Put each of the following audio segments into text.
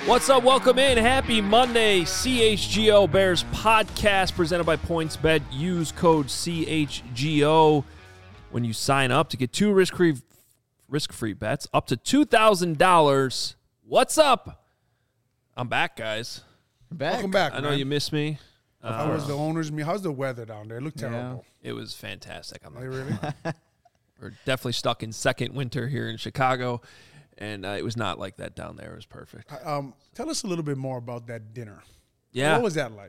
What's up? Welcome in. Happy Monday. CHGO Bears podcast presented by PointsBet. Use code CHGO when you sign up to get two risk-free bets up to $2,000. What's up? I'm back, guys. Welcome back. I know you missed me. How was the owners? How's the weather down there? It looked terrible. It was fantastic. Really? We're definitely stuck in second winter here in Chicago. And it was not like that down there. It was perfect. Tell us a little bit more about that dinner. Yeah. What was that like?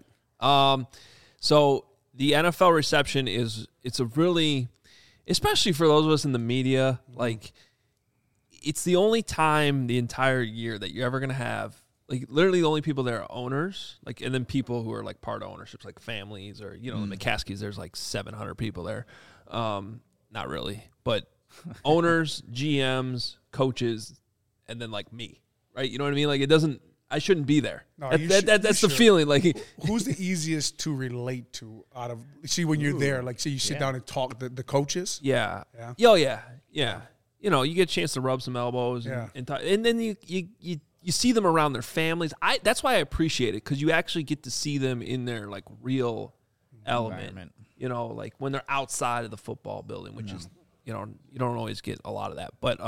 So the NFL reception it's a really, especially for those of us in the media, like it's the only time the entire year that you're ever going to have, like literally the only people there are owners, like, and then people who are like part of ownerships, like families or, the McCaskies, there's like 700 people there. Not really, but owners, GMs, coaches, and then like me, right? You know what I mean? Like I shouldn't be there. No, that's the feeling. Like, who's the easiest to relate to out of, when you're there, like, you sit down and talk the coaches? Yeah. Yeah. Oh, yeah. You get a chance to rub some elbows and talk, and then you see them around their families. That's why I appreciate it, because you actually get to see them in their like real element. Like when they're outside of the football building, which is, you don't always get a lot of that. But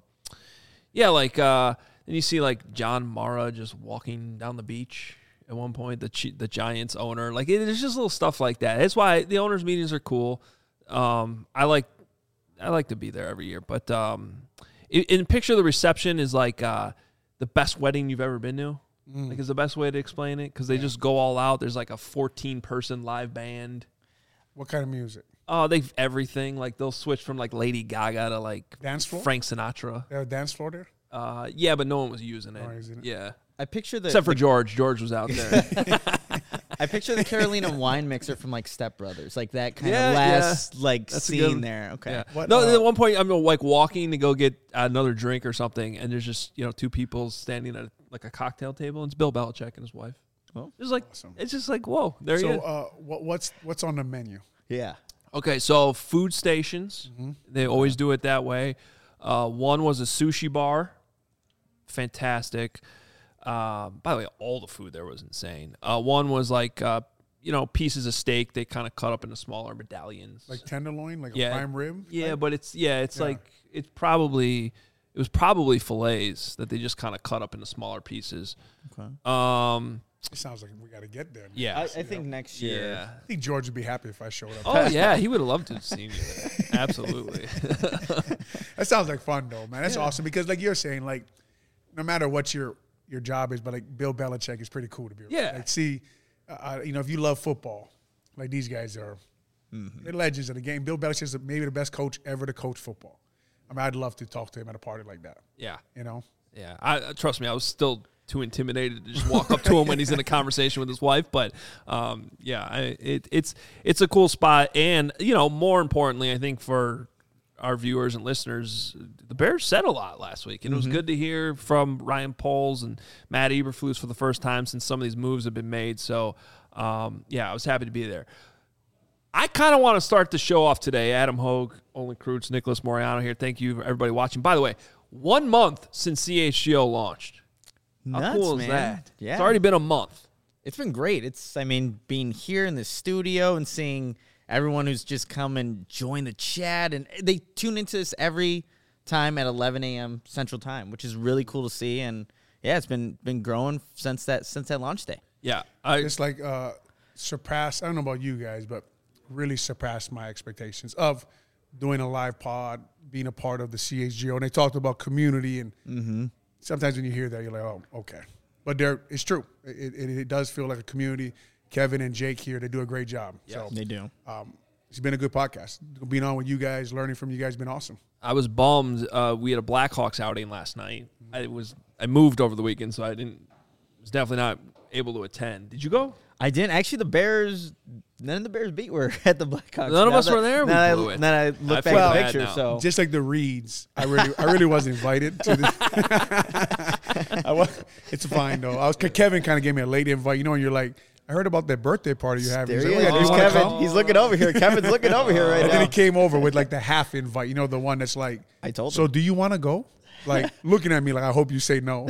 then you see like John Mara just walking down the beach at one point, the Giants owner. Like there's just little stuff like that. That's why the owners' meetings are cool. I like to be there every year. But in picture the reception is like the best wedding you've ever been to. Like is the best way to explain it, because they just go all out. There's like a 14-person live band. What kind of music? Oh, they've everything. Like they'll switch from like Lady Gaga to like dance floor? Frank Sinatra. They have a dance floor there? Yeah, but no one was using it. Yeah. I picture except for George. George was out there. I picture the Carolina wine mixer from like Step Brothers, like that kind of last like that's scene there. Okay. Yeah. At one point I'm like walking to go get another drink or something, and there's just two people standing at like a cocktail table, and it's Bill Belichick and his wife. Well, it's like awesome. It's just like whoa, there you go. What's on the menu? Yeah. Okay, so food stations, they always do it that way. One was a sushi bar, fantastic. By the way, all the food there was insane. One was like, pieces of steak they kind of cut up into smaller medallions, like tenderloin, like a prime rib. Yeah, type? But it's like it was probably fillets that they just kind of cut up into smaller pieces. Okay. It sounds like we got to get there. Yeah, I think next year. Yeah. I think George would be happy if I showed up. Oh yeah, he would have loved to have seen you there. Absolutely. That sounds like fun though, man. That's awesome, because like you're saying, like no matter what your job is, but like Bill Belichick is pretty cool to be around. Yeah. Like if you love football, like these guys are, they're legends of the game. Bill Belichick is maybe the best coach ever to coach football. I mean, I'd love to talk to him at a party like that. Yeah. Yeah. Trust me, I was still too intimidated to just walk up to him when he's in a conversation with his wife. But it's a cool spot, and more importantly, I think for our viewers and listeners, the Bears said a lot last week, and it was good to hear from Ryan Poles and Matt Eberflus for the first time since some of these moves have been made. So I was happy to be there. I kind of want to start the show off today. Adam Hogue, Olin Kreutz, Nicholas Moriano here. Thank you, everybody watching. By the way, 1 month since CHGO launched. Nuts, how cool is man. that? Yeah. It's already been a month. It's been great. Being here in the studio and seeing everyone who's just come and join the chat, and they tune into this every time at 11 a.m. Central Time, which is really cool to see. And yeah, it's been growing since that launch day. Yeah, it's like surpassed. I don't know about you guys, but really surpassed my expectations of doing a live pod, being a part of the CHGO. And they talked about community, and sometimes when you hear that, you're like, oh, okay. But it's true. It does feel like a community. Kevin and Jake here, they do a great job. Yes, so, they do. It's been a good podcast. Being on with you guys, learning from you guys has been awesome. I was bummed. We had a Blackhawks outing last night. I moved over the weekend, so was definitely not able to attend. Did you go? I didn't. Actually, none of the Bears beat were at the Blackhawks. None of us were there. Then I looked back at the picture. So just like the Reeds, I really was invited to this. It's fine though. Kevin kind of gave me a late invite. You know, and you're like, I heard about that birthday party you have. He's like, There's Kevin. He's looking over here. Kevin's looking over here right now. And then he came over with like the half invite. You know, the one that's like, I told him. So do you want to go? like looking at me like, I hope you say no.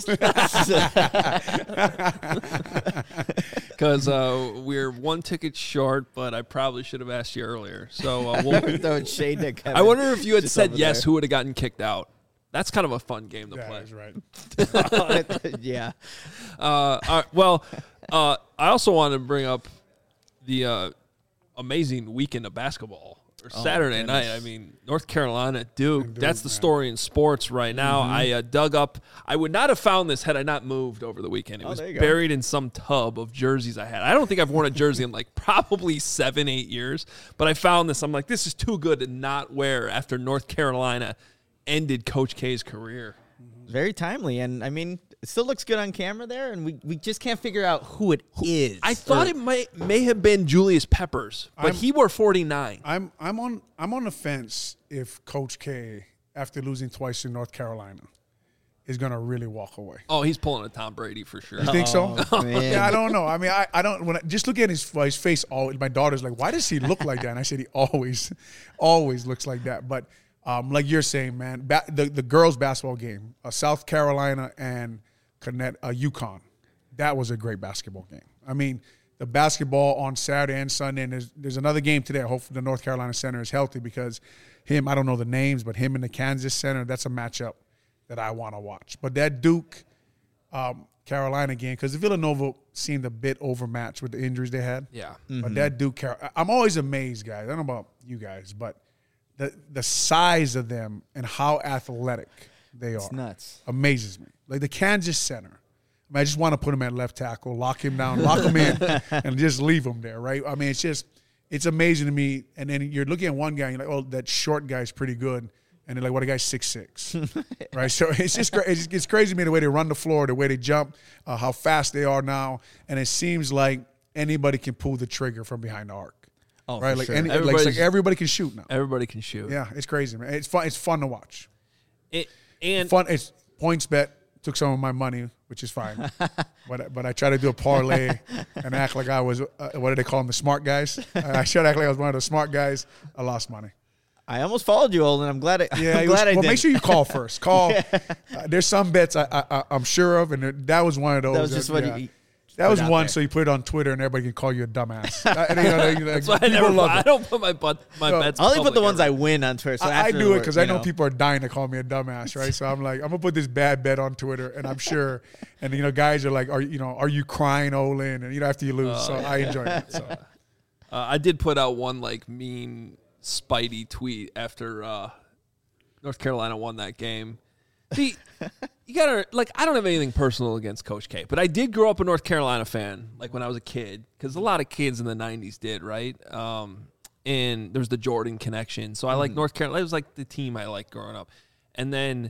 Because we're one ticket short, but I probably should have asked you earlier. So we'll Throwing shade to Kevin. I wonder if you had Just said over yes, there. who would have gotten kicked out. That's kind of a fun game to Yeah, play. that's right. Yeah. All right, well, I also want to bring up the amazing weekend of basketball. Or Saturday goodness. night. I mean, North Carolina, Duke. That's the man. story in sports right now. I dug up. I would not have found this had I not moved over the weekend. It was there you go. buried in some tub of jerseys I had. I don't think I've worn a jersey in like probably 7-8 years. But I found this. I'm like, this is too good to not wear after North Carolina ended Coach K's career. Very timely. And I mean, it still looks good on camera there. And we just can't figure out who it is. I thought it may have been Julius Peppers, but he wore 49. I'm on the fence if Coach K, after losing twice in North Carolina, is gonna really walk away. Oh, he's pulling a Tom Brady for sure. You think so? man. Yeah, I don't know. I mean, I don't. When just look at his face, my daughter's like, "Why does he look like that?" And I said, "He always looks like that." But like you're saying, man, the girls' basketball game, South Carolina and UConn, that was a great basketball game. I mean, the basketball on Saturday and Sunday, and there's another game today. Hopefully, the North Carolina center is healthy because him, I don't know the names, but him and the Kansas center, that's a matchup that I want to watch. But that Duke Carolina game, because Villanova seemed a bit overmatched with the injuries they had. Yeah. But that Duke, I'm always amazed, guys. I don't know about you guys, but the size of them and how athletic they are. It's nuts. Amazes me. Like the Kansas center. I mean, I just want to put him at left tackle, lock him down, lock him in, and just leave him there, right? I mean, it's amazing to me. And then you're looking at one guy, and you're like, oh, that short guy's pretty good. And they're like, what, a guy's 6'6", right? So it's just it's crazy to me the way they run the floor, the way they jump, how fast they are now. And it seems like anybody can pull the trigger from behind the arc. Oh, right? for Like, sure. like everybody can shoot now. Everybody can shoot. Yeah, it's crazy, man. It's fun. It's fun to watch. And Fun. It's points bet. Took some of my money, which is fine. but I try to do a parlay and act like I was, what do they call them, the smart guys? I should act like I was one of the smart guys. I lost money. I almost followed you, Olin. I'm glad I Well, did. make sure you call first. Call. There's some bets I'm sure of, and that was one of those. That was just what yeah. you That was put out one, there. so you put it on Twitter, and everybody can call you a dumbass. that's why I don't put my bets. I only put the public ones ever. I win on Twitter. So I after do the it because work, I know you people are dying to call me a dumbass, right? So I'm like, I'm gonna put this bad bet on Twitter, and I'm sure, and guys are like, are you crying, Olin? And after you lose, so I enjoy it. So I did put out one like mean Spidey tweet after North Carolina won that game. See, you gotta I don't have anything personal against Coach K, but I did grow up a North Carolina fan, like when I was a kid, because a lot of kids in the '90s did, right? And there's the Jordan connection, so I like North Carolina. It was like the team I liked growing up, and then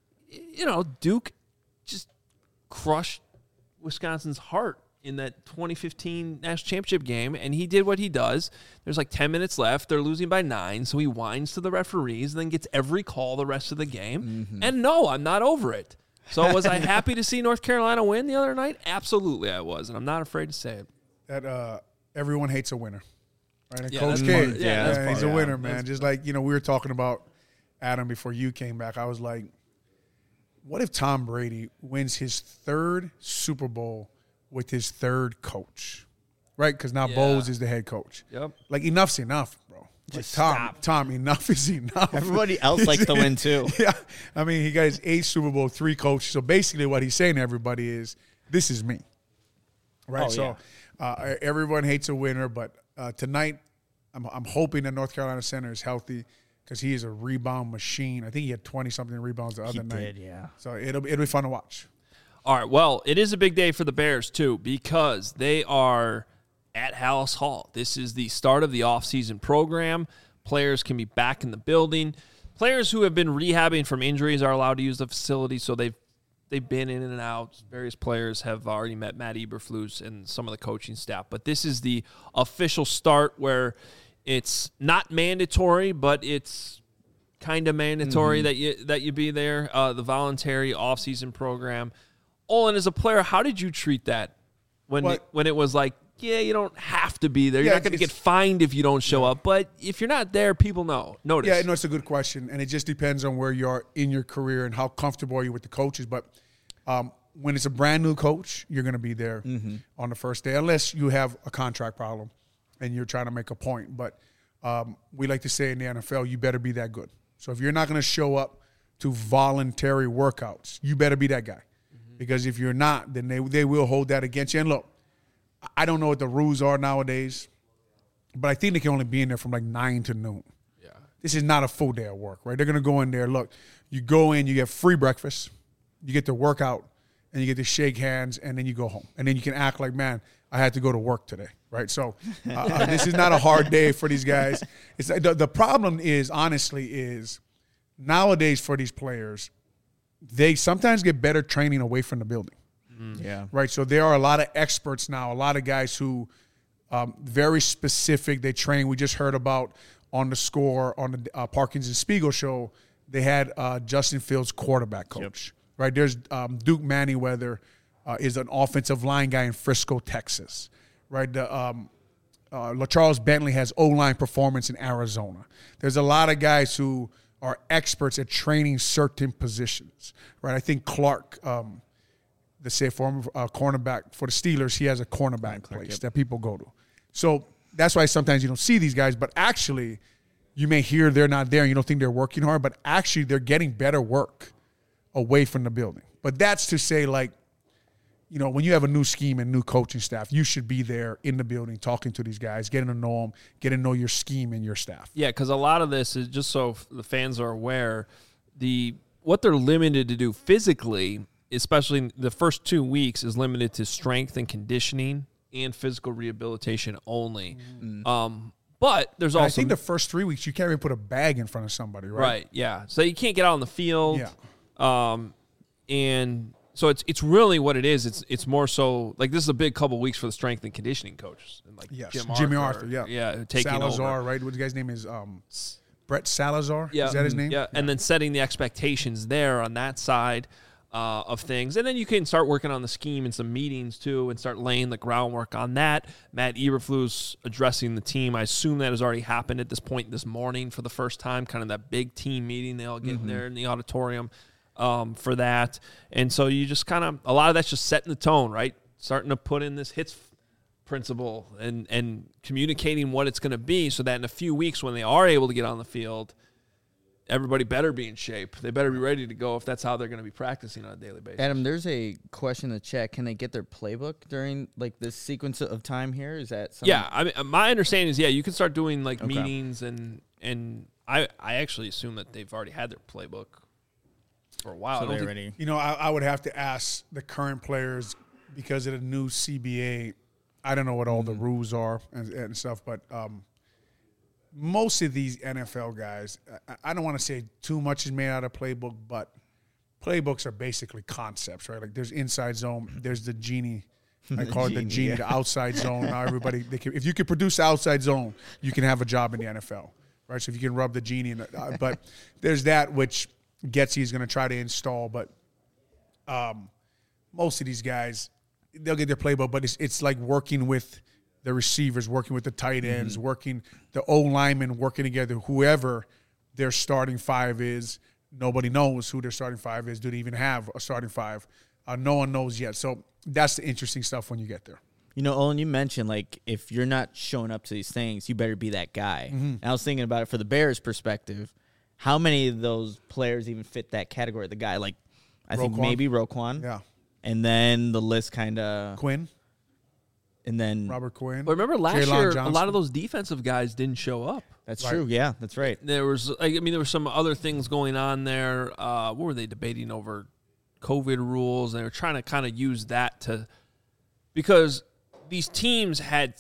Duke just crushed Wisconsin's heart in that 2015 national championship game, and he did what he does. There's like 10 minutes left. They're losing by 9, so he whines to the referees and then gets every call the rest of the game. And no, I'm not over it. So was I happy to see North Carolina win the other night? Absolutely I was, and I'm not afraid to say it. that everyone hates a winner, right? And Yeah, Coach that's K, part- yeah, that's he's part a of it. winner, man. Just like we were talking about Adam before you came back. I was like, what if Tom Brady wins his 3rd Super Bowl with his 3rd coach, right? Because now Yeah. Bowles is the head coach. Yep. Like, enough's enough, bro. Just like, stop. Tom, enough is enough. Everybody else likes to win too. Yeah. I mean, he got his 8th Super Bowl, 3 coaches. So basically what he's saying to everybody is, this is me, right? Oh, So everyone hates a winner, but tonight I'm hoping that North Carolina center is healthy because he is a rebound machine. I think he had 20-something rebounds the other night. did, yeah. So it'll be fun to watch. All right, well, it is a big day for the Bears, too, because they are at Hallis Hall. This is the start of the offseason program. Players can be back in the building. Players who have been rehabbing from injuries are allowed to use the facility, so they've been in and out. Various players have already met Matt Eberflus and some of the coaching staff. But this is the official start where it's not mandatory, but it's kind of mandatory that you be there, the voluntary offseason program. Olin, as a player, how did you treat that when it was like yeah, you don't have to be there. Yeah, You're not going to get fined if you don't show up. But if you're not there, people notice. Yeah, no, it's a good question, and it just depends on where you are in your career and how comfortable are you with the coaches. But when it's a brand new coach, you're going to be there on the first day, unless you have a contract problem and you're trying to make a point. But we like to say in the NFL, you better be that good. So if you're not going to show up to voluntary workouts, you better be that guy. Because if you're not, then they will hold that against you. And look, I don't know what the rules are nowadays, but I think they can only be in there from like 9 to noon. Yeah. This is not a full day of work, right? They're going to go in there. Look, you go in, you get free breakfast, you get to work out, and you get to shake hands, and then you go home. And then you can act like, man, I had to go to work today, right? So this is not a hard day for these guys. It's the problem is, honestly, nowadays for these players, they sometimes get better training away from the building. Yeah. Right. So there are a lot of experts now, a lot of guys who very specific. They train. We just heard about on the Score on the Parkins and Spiegel show. They had Justin Fields quarterback coach. Yep. Right. There's Duke Manyweather is an offensive line guy in Frisco, Texas. Right. LaCharles Bentley has O-line performance in Arizona. There's a lot of guys who are experts at training certain positions. Right. I think Clark. The former cornerback for the Steelers, he has a cornerback place that people go to. So that's why sometimes you don't see these guys, but actually you may hear they're not there and you don't think they're working hard, but actually they're getting better work away from the building. But that's to say, like, you know, when you have a new scheme and new coaching staff, you should be there in the building talking to these guys, getting to know them, getting to know your scheme and your staff. Yeah, because a lot of this is just so the fans are aware, what they're limited to do physically, especially the first 2 weeks, is limited to strength and conditioning and physical rehabilitation only. But there's also, I think the first 3 weeks you can't even put a bag in front of somebody, right? Right. Yeah. So you can't get out on the field. Yeah. And so it's really what it is. It's more so like this is a big couple weeks for the strength and conditioning coaches. And like Jimmy Arthur. Yeah. Yeah. Taking Salazar, over. right? What the guy's name is? Brett Salazar. Yeah. Is that his name? Yeah. And then setting the expectations there on that side of things. And then you can start working on the scheme and some meetings too and start laying the groundwork on that. Matt Eberflus addressing the team. I assume that has already happened at this point this morning for the first time, kind of that big team meeting. They all get there in the auditorium for that. And so you just kind of, a lot of that's just setting the tone, right? Starting to put in this hits principle and communicating what it's going to be so that in a few weeks when they are able to get on the field, everybody better be in shape. They better be ready to go if that's how they're going to be practicing on a daily basis. Adam, there's a question in the chat. Can they get their playbook during like this sequence of time here? Is that something? Yeah, I mean, my understanding is, you can start doing like meetings and I actually assume that they've already had their playbook for a while. So they're ready. You know, I would have to ask the current players because of the new CBA. I don't know what all the rules are and stuff, but most of these NFL guys, I don't want to say too much is made out of playbook, but playbooks are basically concepts, right? Like there's inside zone, there's the genie. I call it the genie, the outside zone. Now everybody, if you can produce outside zone, you can have a job in the NFL, right? So if you can rub the genie, but there's that which Getsy is going to try to install. But most of these guys, they'll get their playbook, but it's like working with the receivers, working with the tight ends, working the O-linemen, working together, whoever their starting five is. Nobody knows who their starting five is. Do they even have a starting five? No one knows yet. So that's the interesting stuff when you get there. You know, Olin, you mentioned, like, if you're not showing up to these things, you better be that guy. And I was thinking about it for the Bears' perspective. How many of those players even fit that category? The guy, like, I think maybe Roquan. Yeah. And then the list kind of... Quinn. And then Robert Quinn. But remember last Jaylon year, Johnson. a lot of those defensive guys didn't show up. That's true. Yeah, that's right. There was, there were some other things going on there. What were they debating over? COVID rules. They were trying to kind of use that because these teams had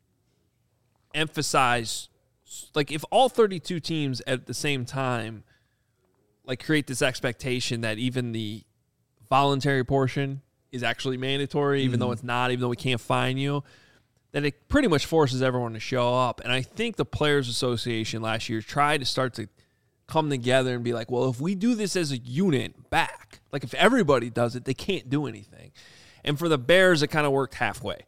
emphasized, like, if all 32 teams at the same time, like, create this expectation that even the voluntary portion is actually mandatory, even though it's not, even though we can't fine you, then it pretty much forces everyone to show up. And I think the Players Association last year tried to start to come together and be like, well, if we do this as a unit back, like if everybody does it, they can't do anything. And for the Bears, it kind of worked halfway.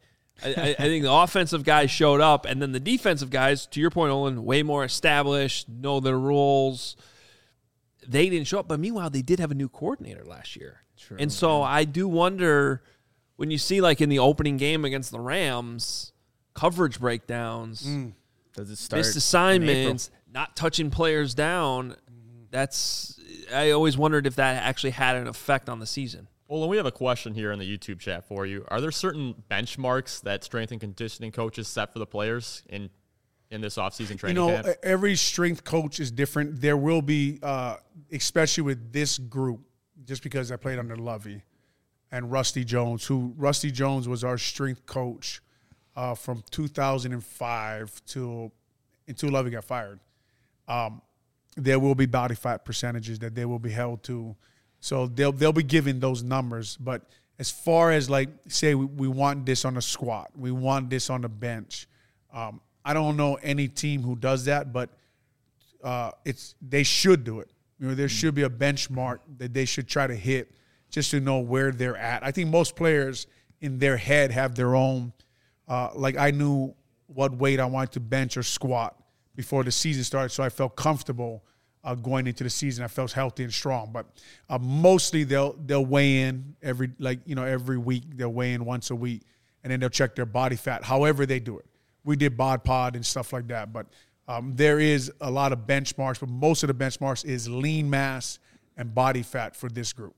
I think the offensive guys showed up, and then the defensive guys, to your point, Olin, way more established, know their roles. They didn't show up, but meanwhile, they did have a new coordinator last year. True, and so I do wonder, when you see, like, in the opening game against the Rams, coverage breakdowns, Does it start missed assignments, not touching players down, I always wondered if that actually had an effect on the season. Well, we have a question here in the YouTube chat for you. Are there certain benchmarks that strength and conditioning coaches set for the players in this offseason training camp? Every strength coach is different. There will be, especially with this group, just because I played under Lovey and Rusty Jones, Rusty Jones was our strength coach from 2005 until Lovey got fired. There will be body fat percentages that they will be held to. So they'll be given those numbers. But as far as, like, say we want this on a squat, we want this on the bench, I don't know any team who does that, but they should do it. There should be a benchmark that they should try to hit just to know where they're at. I think most players in their head have their own. Like, I knew what weight I wanted to bench or squat before the season started, so I felt comfortable going into the season. I felt healthy and strong. But mostly they'll weigh in every week. They'll weigh in once a week, and then they'll check their body fat, however they do it. We did bod pod and stuff like that. But there is a lot of benchmarks, but most of the benchmarks is lean mass and body fat for this group.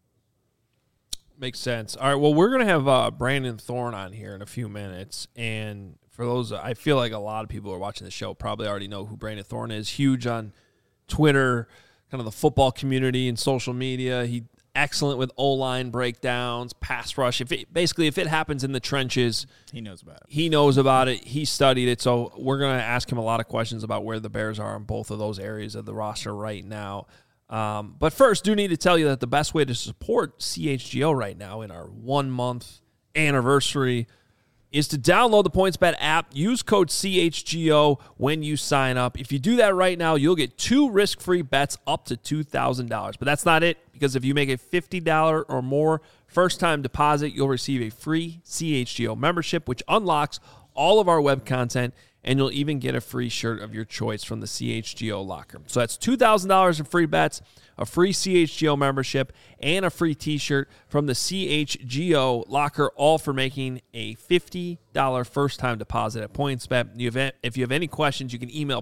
Makes sense. All right, well, we're going to have Brandon Thorn on here in a few minutes. And for those, I feel like a lot of people who are watching the show probably already know who Brandon Thorn is. Huge on Twitter, kind of the football community and social media. He excellent with O-line breakdowns, pass rush. If it happens in the trenches, he knows about it. He knows about it. He studied it. So we're going to ask him a lot of questions about where the Bears are in both of those areas of the roster right now. But first, do need to tell you that the best way to support CHGO right now in our 1-month anniversary is to download the PointsBet app. Use code CHGO when you sign up. If you do that right now, you'll get 2 risk-free bets up to $2,000. But that's not it, because if you make a $50 or more first-time deposit, you'll receive a free CHGO membership, which unlocks all of our web content, and you'll even get a free shirt of your choice from the CHGO locker. So that's $2,000 in free bets, a free CHGO membership, and a free t-shirt from the CHGO locker, all for making a $50 first-time deposit at PointsBet. If you have any questions, you can email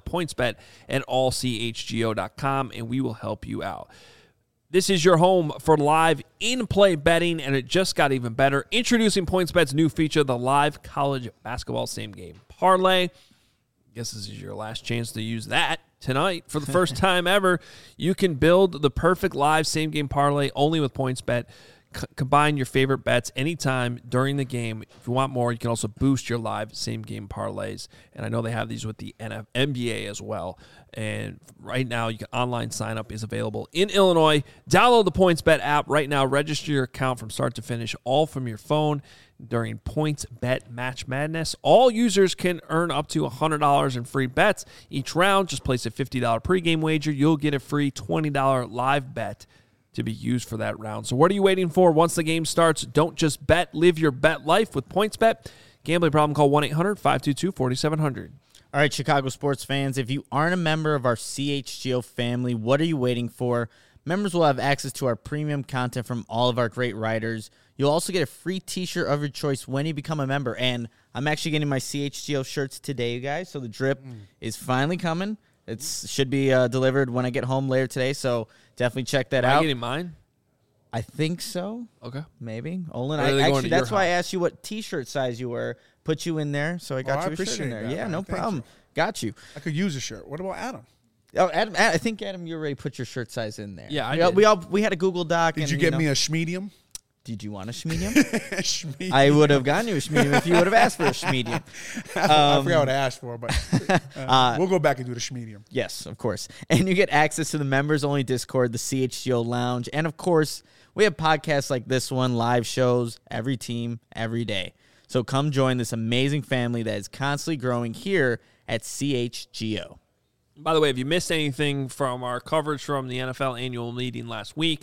pointsbet@allchgo.com, and we will help you out. This is your home for live in-play betting, and it just got even better. Introducing PointsBet's new feature, the live college basketball same-game parlay. I guess this is your last chance to use that tonight. For the first time ever, you can build the perfect live same-game parlay only with PointsBet. Combine your favorite bets anytime during the game. If you want more, you can also boost your live same-game parlays. And I know they have these with the NBA as well. And right now, online sign-up is available in Illinois. Download the PointsBet app right now. Register your account from start to finish, all from your phone during PointsBet Match Madness. All users can earn up to $100 in free bets each round. Just place a $50 pregame wager. You'll get a free $20 live bet to be used for that round. So what are you waiting for? Once the game starts, don't just bet. Live your bet life with PointsBet. Gambling problem, call 1-800-522-4700. All right, Chicago sports fans, if you aren't a member of our CHGO family, what are you waiting for? Members will have access to our premium content from all of our great writers. You'll also get a free t-shirt of your choice when you become a member. And I'm actually getting my CHGO shirts today, you guys. So the drip is finally coming. It should be delivered when I get home later today. So definitely check that out. Are you getting mine? I think so. Okay. Maybe. Olin, that's why I asked you what t-shirt size you were. Put you in there, so I got you a shirt in there. Yeah, no problem. Got you. I could use a shirt. What about Adam? Oh, Adam, I think, Adam, you already put your shirt size in there. Yeah, we had a Google Doc. Did you get me a schmedium? Did you want a schmedium? I would have gotten you a schmedium if you would have asked for a schmedium. I forgot what I asked for, but we'll go back and do the schmedium. Yes, of course. And you get access to the members-only Discord, the CHGO Lounge, and, of course, we have podcasts like this one, live shows, every team, every day. So come join this amazing family that is constantly growing here at CHGO. By the way, if you missed anything from our coverage from the NFL annual meeting last week,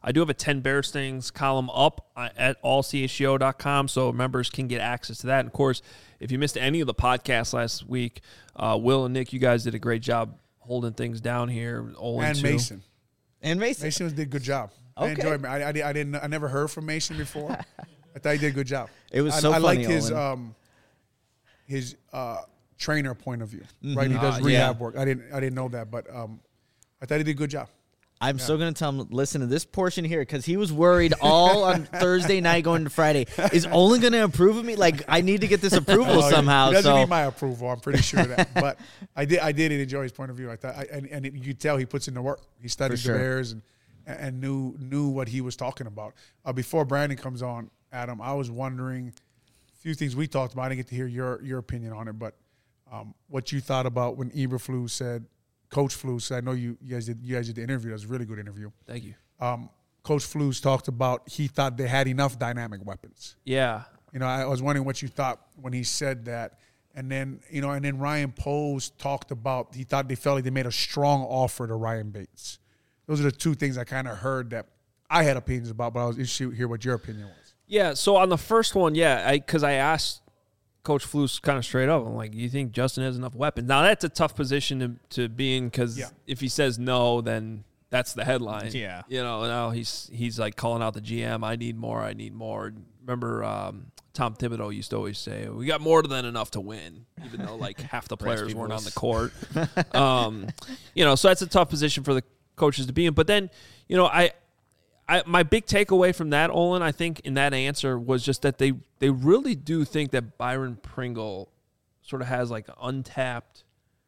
I do have a 10 Bears Things column up at allchgo.com, so members can get access to that. And of course, if you missed any of the podcasts last week, Will and Nick, you guys did a great job holding things down here. And too. Mason. And Mason. Mason did a good job. Okay. I enjoyed it. I never heard from Mason before. I thought he did a good job. It was so I funny, liked his trainer point of view. Right, he does rehab work. I didn't know that, but I thought he did a good job. I'm still going to tell him, listen to this portion here, because he was worried all on Thursday night going to Friday. Is Olin going to approve of me? Like, I need to get this approval somehow. He doesn't so need my approval. I'm pretty sure of that. But I did enjoy his point of view. I thought, you could tell he puts in the work. He studied For sure. the Bears and knew what he was talking about. Before Brandon comes on, Adam, I was wondering a few things we talked about. I didn't get to hear your opinion on it, but what you thought about when Eberflus said, Coach Flus, I know you guys did the interview. That was a really good interview. Thank you. Coach Flus talked about he thought they had enough dynamic weapons. Yeah. I was wondering what you thought when he said that. And then, Ryan Poles talked about he thought they felt like they made a strong offer to Ryan Bates. Those are the two things I kind of heard that I had opinions about, but I was interested to hear what your opinion was. Yeah, so on the first one, because I asked Coach Flus kind of straight up, I'm like, you think Justin has enough weapons? Now, that's a tough position to be in, because if he says no, then that's the headline. Yeah. Now he's like calling out the GM, I need more. Remember Tom Thibodeau used to always say, we got more than enough to win, even though like half the players weren't on the court. So that's a tough position for the coaches to be in. But then, my big takeaway from that, Olin, I think in that answer was just that they really do think that Byron Pringle sort of has like untapped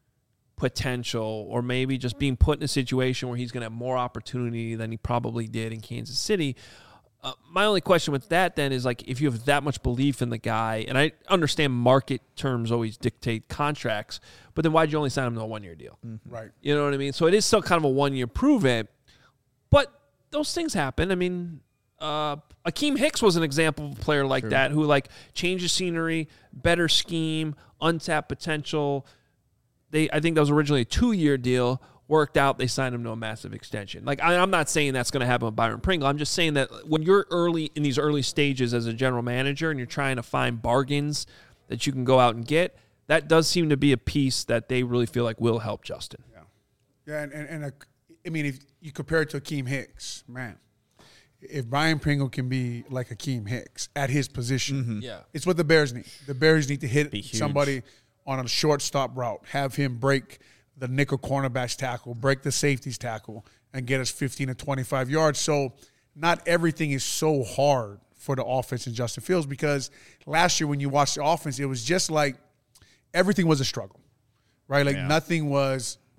potential, or maybe just being put in a situation where he's going to have more opportunity than he probably did in Kansas City. My only question with that then is, like, if you have that much belief in the guy, and I understand market terms always dictate contracts, but then why'd you only sign him to a 1-year deal? Mm-hmm. Right. You know what I mean? So it is still kind of a 1-year prove it, but those things happen. I mean, Akeem Hicks was an example of a player like that who, like, changes scenery, better scheme, untapped potential. I think that was originally a 2-year deal, worked out, they signed him to a massive extension. Like, I'm not saying that's going to happen with Byron Pringle. I'm just saying that when you're in these early stages as a general manager and you're trying to find bargains that you can go out and get, that does seem to be a piece that they really feel like will help Justin. Yeah, and I mean, if you compare it to Akeem Hicks, man, if Byron Pringle can be like Akeem Hicks at his position, it's what the Bears need. The Bears need to hit somebody on a shortstop route, have him break the nickel cornerback's tackle, break the safety's tackle, and get us 15 to 25 yards. So not everything is so hard for the offense in Justin Fields, because last year when you watched the offense, it was just like everything was a struggle, right? Like nothing was –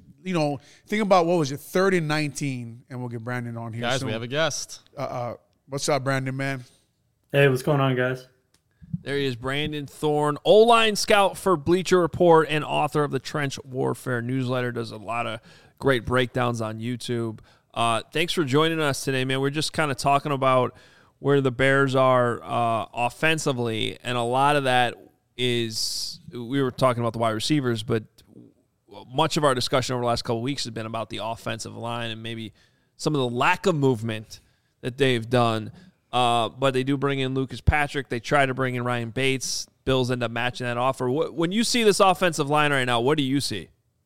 think about, what was it, 3rd and 19, and we'll get Brandon on here Guys, soon. we have a guest. What's up, Brandon, man? Hey, what's going on, guys? There he is, Brandon Thorne, O-line scout for Bleacher Report and author of the Trench Warfare newsletter. Does a lot of great breakdowns on YouTube. Thanks for joining us today, man. We're just kind of talking about where the Bears are offensively, and a lot of that is, we were talking about the wide receivers, but much of our discussion over the last couple of weeks has been about the offensive line and maybe some of the lack of movement that they've done. But they do bring in Lucas Patrick. They try to bring in Ryan Bates. Bills end up matching that offer. When you see this offensive line right now, what do you see?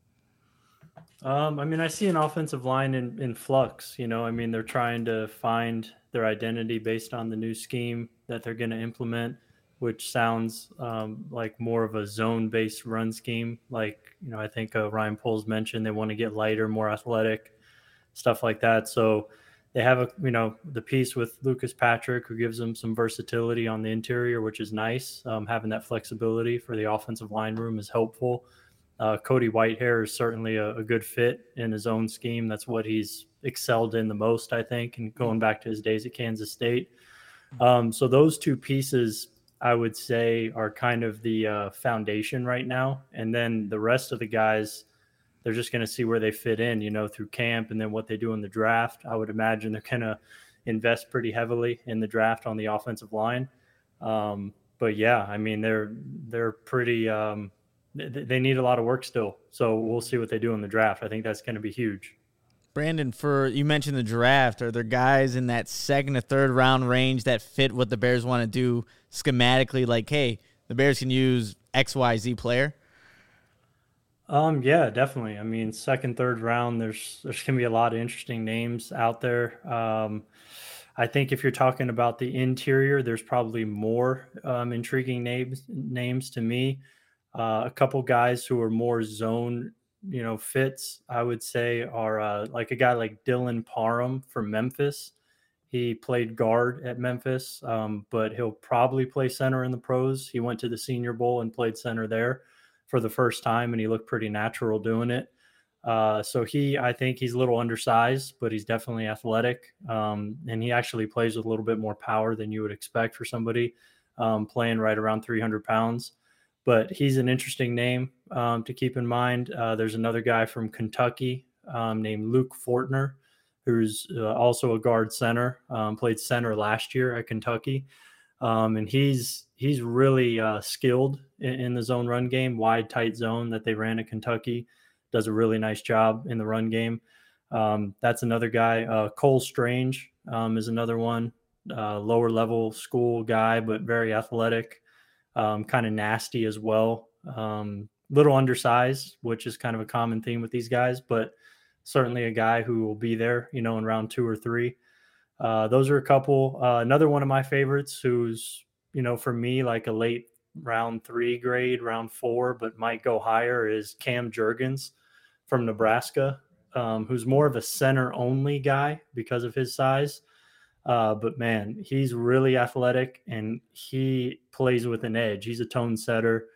I see an offensive line in flux. They're trying to find their identity based on the new scheme that they're going to implement, which sounds like more of a zone-based run scheme. I think Ryan Poles mentioned they want to get lighter, more athletic, stuff like that. So they have the piece with Lucas Patrick, who gives them some versatility on the interior, which is nice. Having that flexibility for the offensive line room is helpful. Cody Whitehair is certainly a good fit in his own scheme. That's what he's excelled in the most, I think, and going back to his days at Kansas State. So those two pieces, I would say, are kind of the foundation right now. And then the rest of the guys, they're just going to see where they fit in, through camp, and then what they do in the draft. I would imagine they're going to invest pretty heavily in the draft on the offensive line. But yeah, they're pretty, they need a lot of work still. So we'll see what they do in the draft. I think that's going to be huge. Brandon, you mentioned the draft. Are there guys in that second or third round range that fit what the Bears want to do schematically? Like, hey, the Bears can use XYZ player. Yeah, definitely. I mean, second, third round, there's gonna be a lot of interesting names out there. I think if you're talking about the interior, there's probably more intriguing names to me. A couple guys who are more zone, fits, I would say, are like a guy like Dylan Parham from Memphis. He played guard at Memphis, but he'll probably play center in the pros. He went to the Senior Bowl and played center there for the first time, and he looked pretty natural doing it. So I think he's a little undersized, but he's definitely athletic. And he actually plays with a little bit more power than you would expect for somebody playing right around 300 pounds. But he's an interesting name to keep in mind. There's another guy from Kentucky named Luke Fortner, who's also a guard center, played center last year at Kentucky. And he's really skilled in the zone run game, wide, tight zone that they ran at Kentucky. Does a really nice job in the run game. That's another guy. Cole Strange is another one, lower level school guy, but very athletic, kind of nasty as well. Little undersized, which is kind of a common theme with these guys, but certainly a guy who will be there, in round 2 or 3. Those are a couple. Another one of my favorites who's, for me, like a late round 3 grade, round 4, but might go higher is Cam Jurgens from Nebraska, who's more of a center only guy because of his size. But man, he's really athletic and he plays with an edge. He's a tone setter.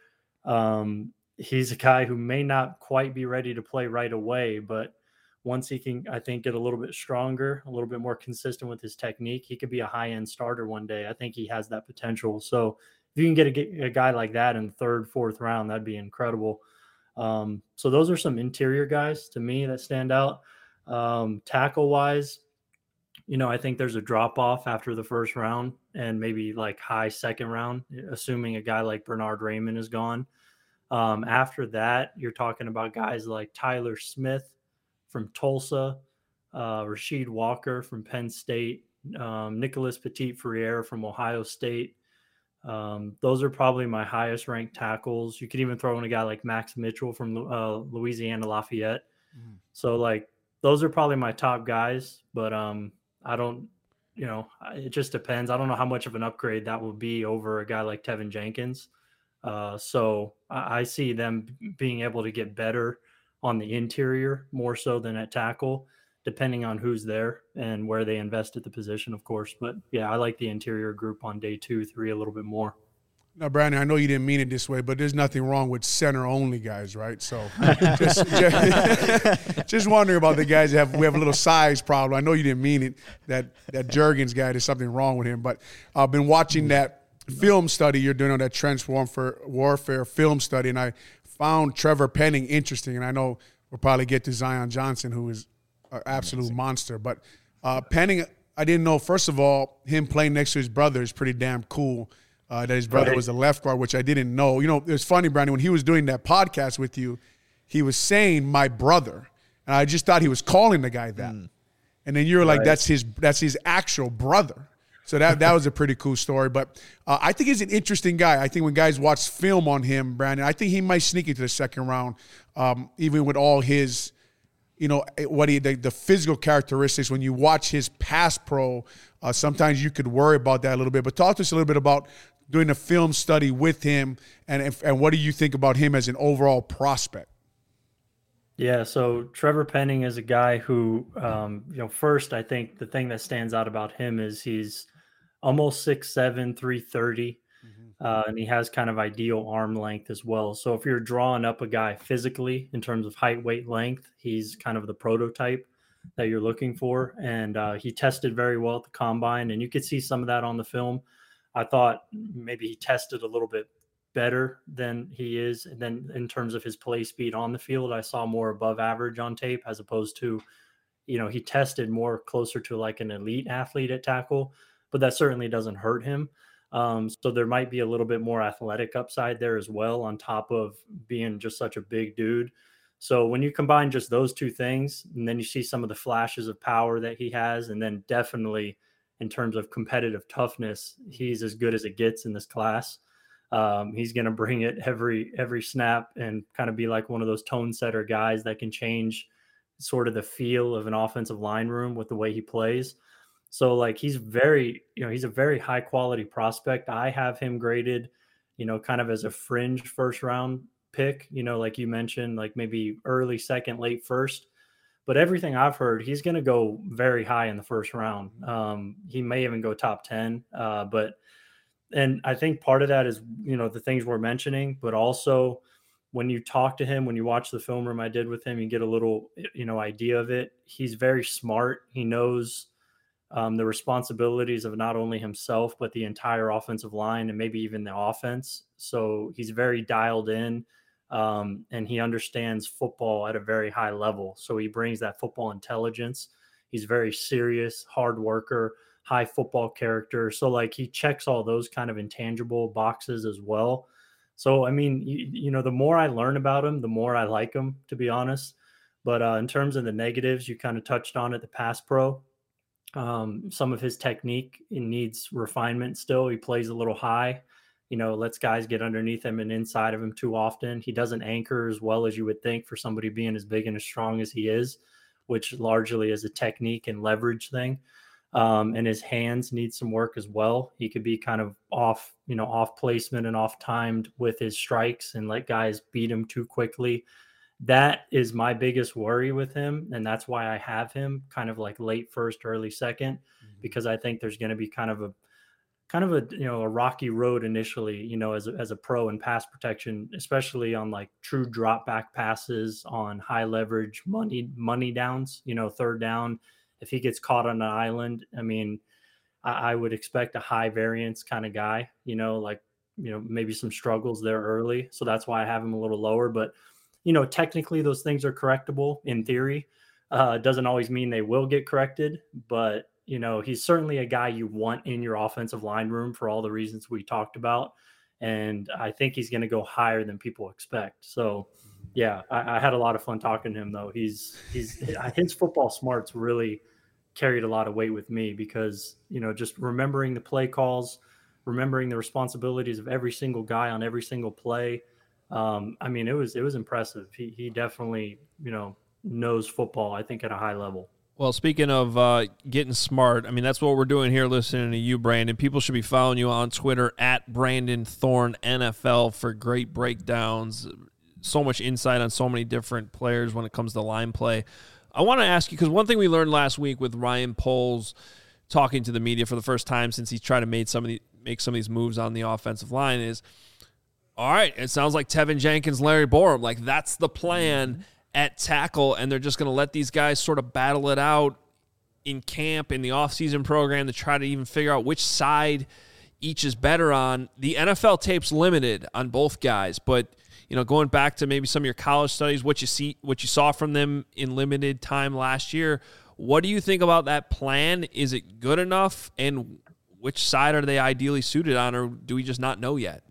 He's a guy who may not quite be ready to play right away, but once he can, I think, get a little bit stronger, a little bit more consistent with his technique, he could be a high-end starter one day. I think he has that potential. So if you can get a guy like that in the 3rd, 4th round, that'd be incredible. So those are some interior guys to me that stand out. Tackle-wise, I think there's a drop-off after the 1st round and maybe like high 2nd round, assuming a guy like Bernard Raymond is gone. After that, you're talking about guys like Tyler Smith from Tulsa, Rasheed Walker from Penn State, Nicholas Petit-Frere from Ohio State. Those are probably my highest ranked tackles. You could even throw in a guy like Max Mitchell from Louisiana Lafayette. So like those are probably my top guys, but I don't, it just depends. I don't know how much of an upgrade that will be over a guy like Tevin Jenkins. So I see them being able to get better on the interior more so than at tackle, depending on who's there and where they invest at the position, of course. But yeah, I like the interior group on day 2, 3 a little bit more. Now, Brandon, I know you didn't mean it this way, but there's nothing wrong with center-only guys, right? So just wondering about the guys that we have a little size problem. I know you didn't mean it, that Jurgens guy, there's something wrong with him. But I've been watching that film study you're doing on that trench warfare film study, and I found Trevor Penning interesting. And I know we'll probably get to Zion Johnson, who is an absolute monster. But Penning, I didn't know, first of all, him playing next to his brother is pretty damn cool. That his brother was a left guard, which I didn't know. It was funny, Brandon, when he was doing that podcast with you, he was saying my brother. And I just thought he was calling the guy that. And then you're like, that's his actual brother. So that was a pretty cool story. But I think he's an interesting guy. I think when guys watch film on him, Brandon, I think he might sneak into the 2nd round, even with all his, the physical characteristics. When you watch his pass pro, sometimes you could worry about that a little bit. But talk to us a little bit about doing a film study with him, and what do you think about him as an overall prospect? Yeah, so Trevor Penning is a guy who, first, I think the thing that stands out about him is he's almost 6'7", 330, and he has kind of ideal arm length as well. So if you're drawing up a guy physically in terms of height, weight, length, he's kind of the prototype that you're looking for. And he tested very well at the combine, and you could see some of that on the film. I thought maybe he tested a little bit better than he is. And then in terms of his play speed on the field, I saw more above average on tape as opposed to, he tested more closer to like an elite athlete at tackle, but that certainly doesn't hurt him. So there might be a little bit more athletic upside there as well, on top of being just such a big dude. So when you combine just those two things, and then you see some of the flashes of power that he has, and then definitely in terms of competitive toughness, he's as good as it gets in this class. He's going to bring it every snap and kind of be like one of those tone setter guys that can change sort of the feel of an offensive line room with the way he plays. So like he's a very high quality prospect. I have him graded, kind of as a fringe first round pick, like you mentioned, like maybe early second, late first. But everything I've heard, he's going to go very high in the first round. He may even go top 10. And I think part of that is, the things we're mentioning, but also when you talk to him, when you watch the film room I did with him, you get a little, idea of it. He's very smart. He knows the responsibilities of not only himself, but the entire offensive line and maybe even the offense. So he's very dialed in, and he understands football at a very high level. So he brings that football intelligence. He's very serious, hard worker, high football character. So like he checks all those kind of intangible boxes as well. So, I mean, the more I learn about him, the more I like him, to be honest. But in terms of the negatives, you kind of touched on it, the pass pro. Some of his technique needs refinement still. He plays a little high, lets guys get underneath him and inside of him too often. He doesn't anchor as well as you would think for somebody being as big and as strong as he is, which largely is a technique and leverage thing. And his hands need some work as well. He could be kind of off placement and off timed with his strikes and let guys beat him too quickly. That is my biggest worry with him. And that's why I have him kind of like late first, early second, because I think there's going to be kind of a rocky road initially, as a pro in pass protection, especially on like true drop back passes on high leverage money downs, third down. If he gets caught on an island, I mean, I would expect a high variance kind of guy, maybe some struggles there early. So that's why I have him a little lower. But, technically those things are correctable in theory. It doesn't always mean they will get corrected. But, he's certainly a guy you want in your offensive line room for all the reasons we talked about. And I think he's going to go higher than people expect. So, yeah, I had a lot of fun talking to him, though. His football smarts really carried a lot of weight with me because, just remembering the play calls, remembering the responsibilities of every single guy on every single play. I mean, it was impressive. He definitely, knows football, I think, at a high level. Well, speaking of getting smart, I mean, that's what we're doing here listening to you, Brandon. People should be following you on Twitter at Brandon Thorn NFL for great breakdowns. So much insight on so many different players when it comes to line play. I want to ask you, because one thing we learned last week with Ryan Poles talking to the media for the first time since he's tried to make some of these moves on the offensive line is, all right, it sounds like Tevin Jenkins, Larry Borom, like that's the plan at tackle, and they're just going to let these guys sort of battle it out in camp, in the offseason program, to try to even figure out which side each is better on. The NFL tape's limited on both guys, but going back to maybe some of your college studies, what you saw from them in limited time last year, what do you think about that plan? Is it good enough? And which side are they ideally suited on, or do we just not know yet?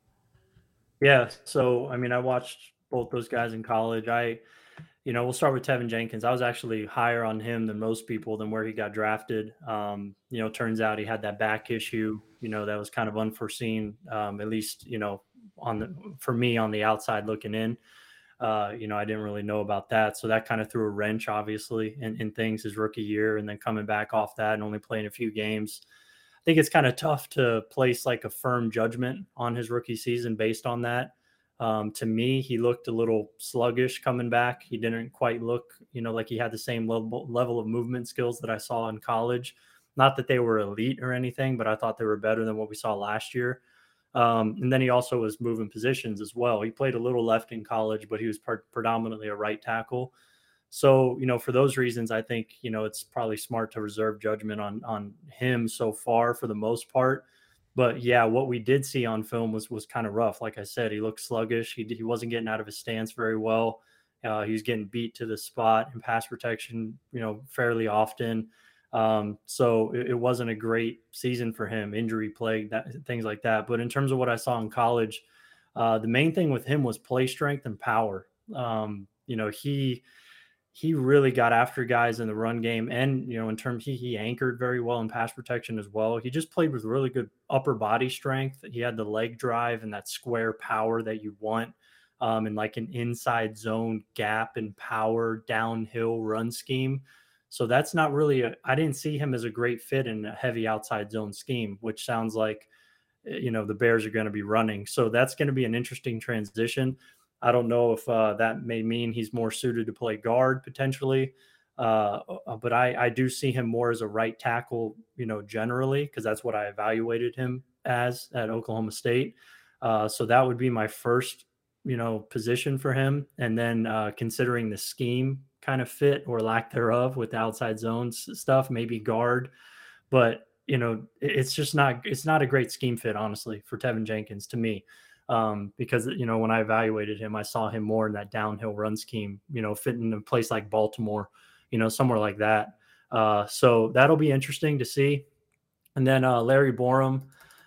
Yeah. So, I mean, I watched both those guys in college. We'll start with Tevin Jenkins. I was actually higher on him than most people than where he got drafted. Turns out he had that back issue, that was kind of unforeseen, at least, for me on the outside looking in. I didn't really know about that. So that kind of threw a wrench, obviously, in things his rookie year, and then coming back off that and only playing a few games. I think it's kind of tough to place like a firm judgment on his rookie season based on that. To me, he looked a little sluggish coming back. He didn't quite look, like he had the same level of movement skills that I saw in college. Not that they were elite or anything, but I thought they were better than what we saw last year. And then he also was moving positions as well. He played a little left in college, but he was predominantly a right tackle. So, for those reasons, I think, it's probably smart to reserve judgment on him so far for the most part. But yeah, what we did see on film was kind of rough. Like I said, he looked sluggish. He wasn't getting out of his stance very well. He was getting beat to the spot in pass protection, fairly often. So it wasn't a great season for him, injury plagued, things like that. But in terms of what I saw in college, the main thing with him was play strength and power. he really got after guys in the run game, and in terms he anchored very well in pass protection as well. He just played with really good upper body strength. He had the leg drive and that square power that you want, and like an inside zone gap and power downhill run scheme. So that's not really I didn't see him as a great fit in a heavy outside zone scheme, which sounds like the Bears are going to be running. So that's going to be an interesting transition. I don't know if that may mean he's more suited to play guard potentially, but I do see him more as a right tackle, generally, because that's what I evaluated him as at Oklahoma State. So that would be my first, position for him. And then considering the scheme kind of fit or lack thereof with the outside zones stuff, maybe guard. But, it's not a great scheme fit, honestly, for Tevin Jenkins to me. Because when I evaluated him, I saw him more in that downhill run scheme, fitting in a place like Baltimore, somewhere like that. So that'll be interesting to see. And then Larry Borom,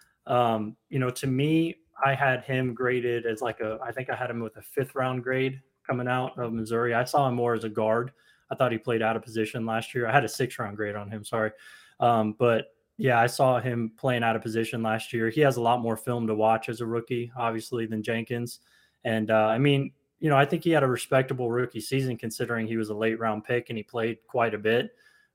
to me, I had him graded as I think I had him with a 5th round grade coming out of Missouri. I saw him more as a guard. I thought he played out of position last year. I had a 6th round grade on him. Sorry. But yeah, I saw him playing out of position last year. He has a lot more film to watch as a rookie, obviously, than Jenkins. And I think he had a respectable rookie season considering he was a late round pick and he played quite a bit.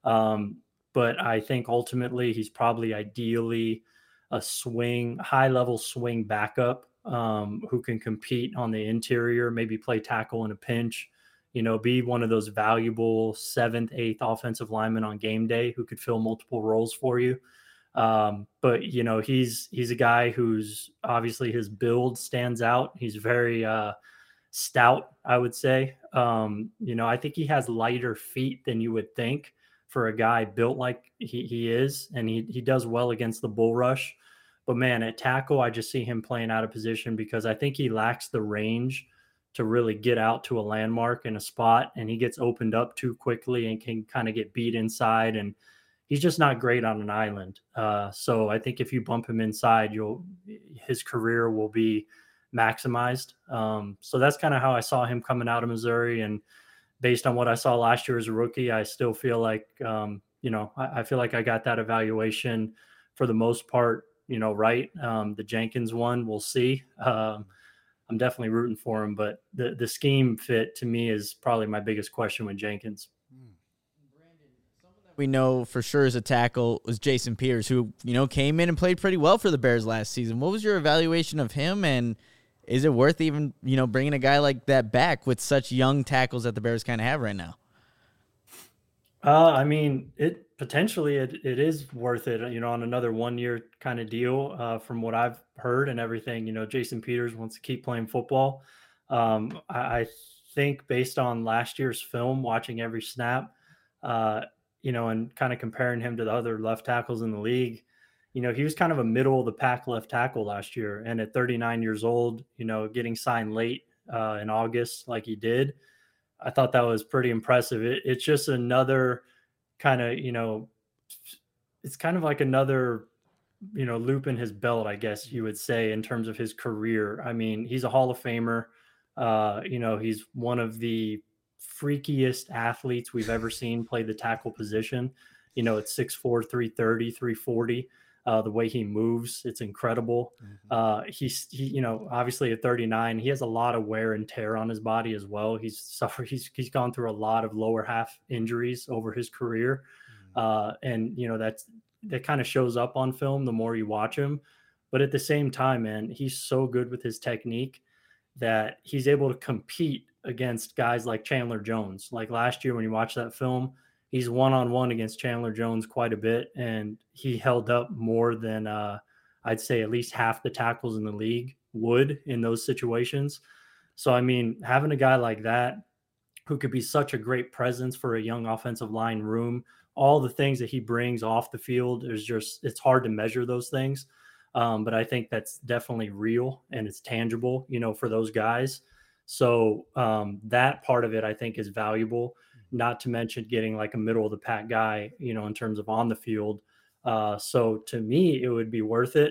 But I think ultimately he's probably ideally a high level swing backup who can compete on the interior, maybe play tackle in a pinch, be one of those valuable 7th, 8th offensive linemen on game day who could fill multiple roles for you. But he's a guy who's obviously his build stands out. He's very stout, I would say. I think he has lighter feet than you would think for a guy built like he is, and he does well against the bull rush. But man, at tackle, I just see him playing out of position because I think he lacks the range to really get out to a landmark in a spot, and he gets opened up too quickly and can kind of get beat inside, and he's just not great on an island. So I think if you bump him inside, his career will be maximized. So that's kind of how I saw him coming out of Missouri, and based on what I saw last year as a rookie, I still feel like I feel like I got that evaluation for the most part, right. The Jenkins one, we'll see. I'm definitely rooting for him, but the scheme fit to me is probably my biggest question with Jenkins. We know for sure as a tackle was Jason Peters, who, came in and played pretty well for the Bears last season. What was your evaluation of him, and is it worth even, bringing a guy like that back with such young tackles that the Bears kind of have right now? It is worth it, on another 1-year kind of deal, from what I've heard and everything. Jason Peters wants to keep playing football. I think based on last year's film, watching every snap, and kind of comparing him to the other left tackles in the league, he was kind of a middle of the pack left tackle last year. And at 39 years old, getting signed late in August like he did, I thought that was pretty impressive. It's just another kind of, it's kind of like another, loop in his belt, I guess you would say, in terms of his career. I mean, he's a Hall of Famer. He's one of the freakiest athletes we've ever seen play the tackle position. At 6'4", 330, 340. The way he moves, it's incredible. He's obviously at 39, he has a lot of wear and tear on his body as well. He's gone through a lot of lower half injuries over his career. And that kind of shows up on film the more you watch him. But at the same time, man, he's so good with his technique that he's able to compete against guys like Chandler Jones. Like last year when you watch that film, he's one-on-one against Chandler Jones quite a bit, and he held up more than I'd say at least half the tackles in the league would in those situations. So, I mean, having a guy like that who could be such a great presence for a young offensive line room, all the things that he brings off the field, it's hard to measure those things. But I think that's definitely real and it's tangible, for those guys. So that part of it, I think, is valuable, not to mention getting like a middle of the pack guy, in terms of on the field. So to me, it would be worth it.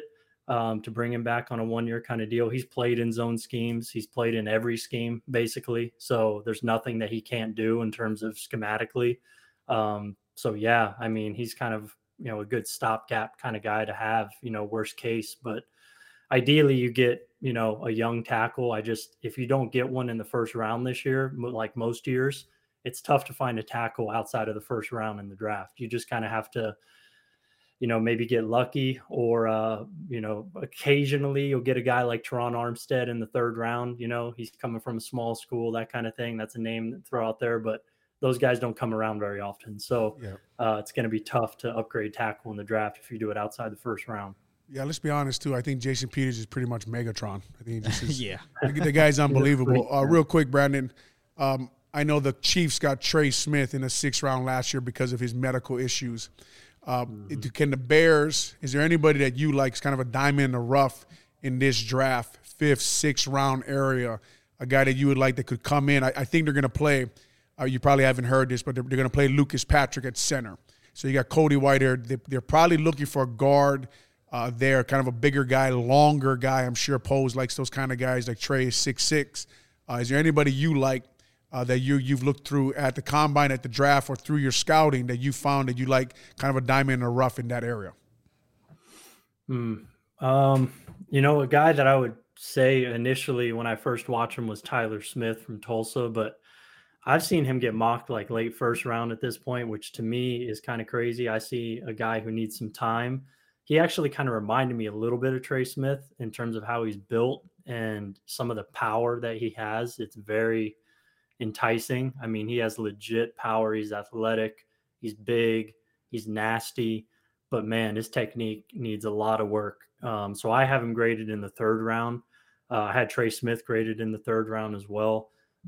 to bring him back on a 1-year kind of deal. He's played in zone schemes. He's played in every scheme basically. So there's nothing that he can't do in terms of schematically. So yeah, I mean, he's kind of, a good stopgap kind of guy to have, worst case, but ideally you get, a young tackle. If you don't get one in the first round this year, like most years, it's tough to find a tackle outside of the first round in the draft. You just kind of have to, maybe get lucky or, occasionally you'll get a guy like Teron Armstead in the third round. He's coming from a small school, that kind of thing. That's a name to throw out there, but those guys don't come around very often. So it's going to be tough to upgrade tackle in the draft if you do it outside the first round. Yeah, let's be honest, too. I think Jason Peters is pretty much Megatron. I think he just is. Yeah. The guy's unbelievable. Real quick, Brandon, I know the Chiefs got Trey Smith in the 6th round last year because of his medical issues. Can the Bears, is there anybody that you like is kind of a diamond in the rough in this draft, 5th, 6th round area, a guy that you would like that could come in? I think they're going to play, you probably haven't heard this, but they're going to play Lucas Patrick at center. So you got Cody White there. They're probably looking for a guard there, kind of a bigger guy, longer guy. I'm sure Pose likes those kind of guys, like Trey is 6'6". Is there anybody you like that you've looked through at the combine, at the draft, or through your scouting that you found that you like kind of a diamond in the rough in that area? A guy that I would say initially when I first watched him was Tyler Smith from Tulsa, but I've seen him get mocked like late first round at this point, which to me is kind of crazy. I see a guy who needs some time. He actually kind of reminded me a little bit of Trey Smith in terms of how he's built and some of the power that he has. It's very enticing. I mean, he has legit power. He's athletic. He's big. He's nasty. But, man, his technique needs a lot of work. So I have him graded in the 3rd round. I had Trey Smith graded in the 3rd round as well.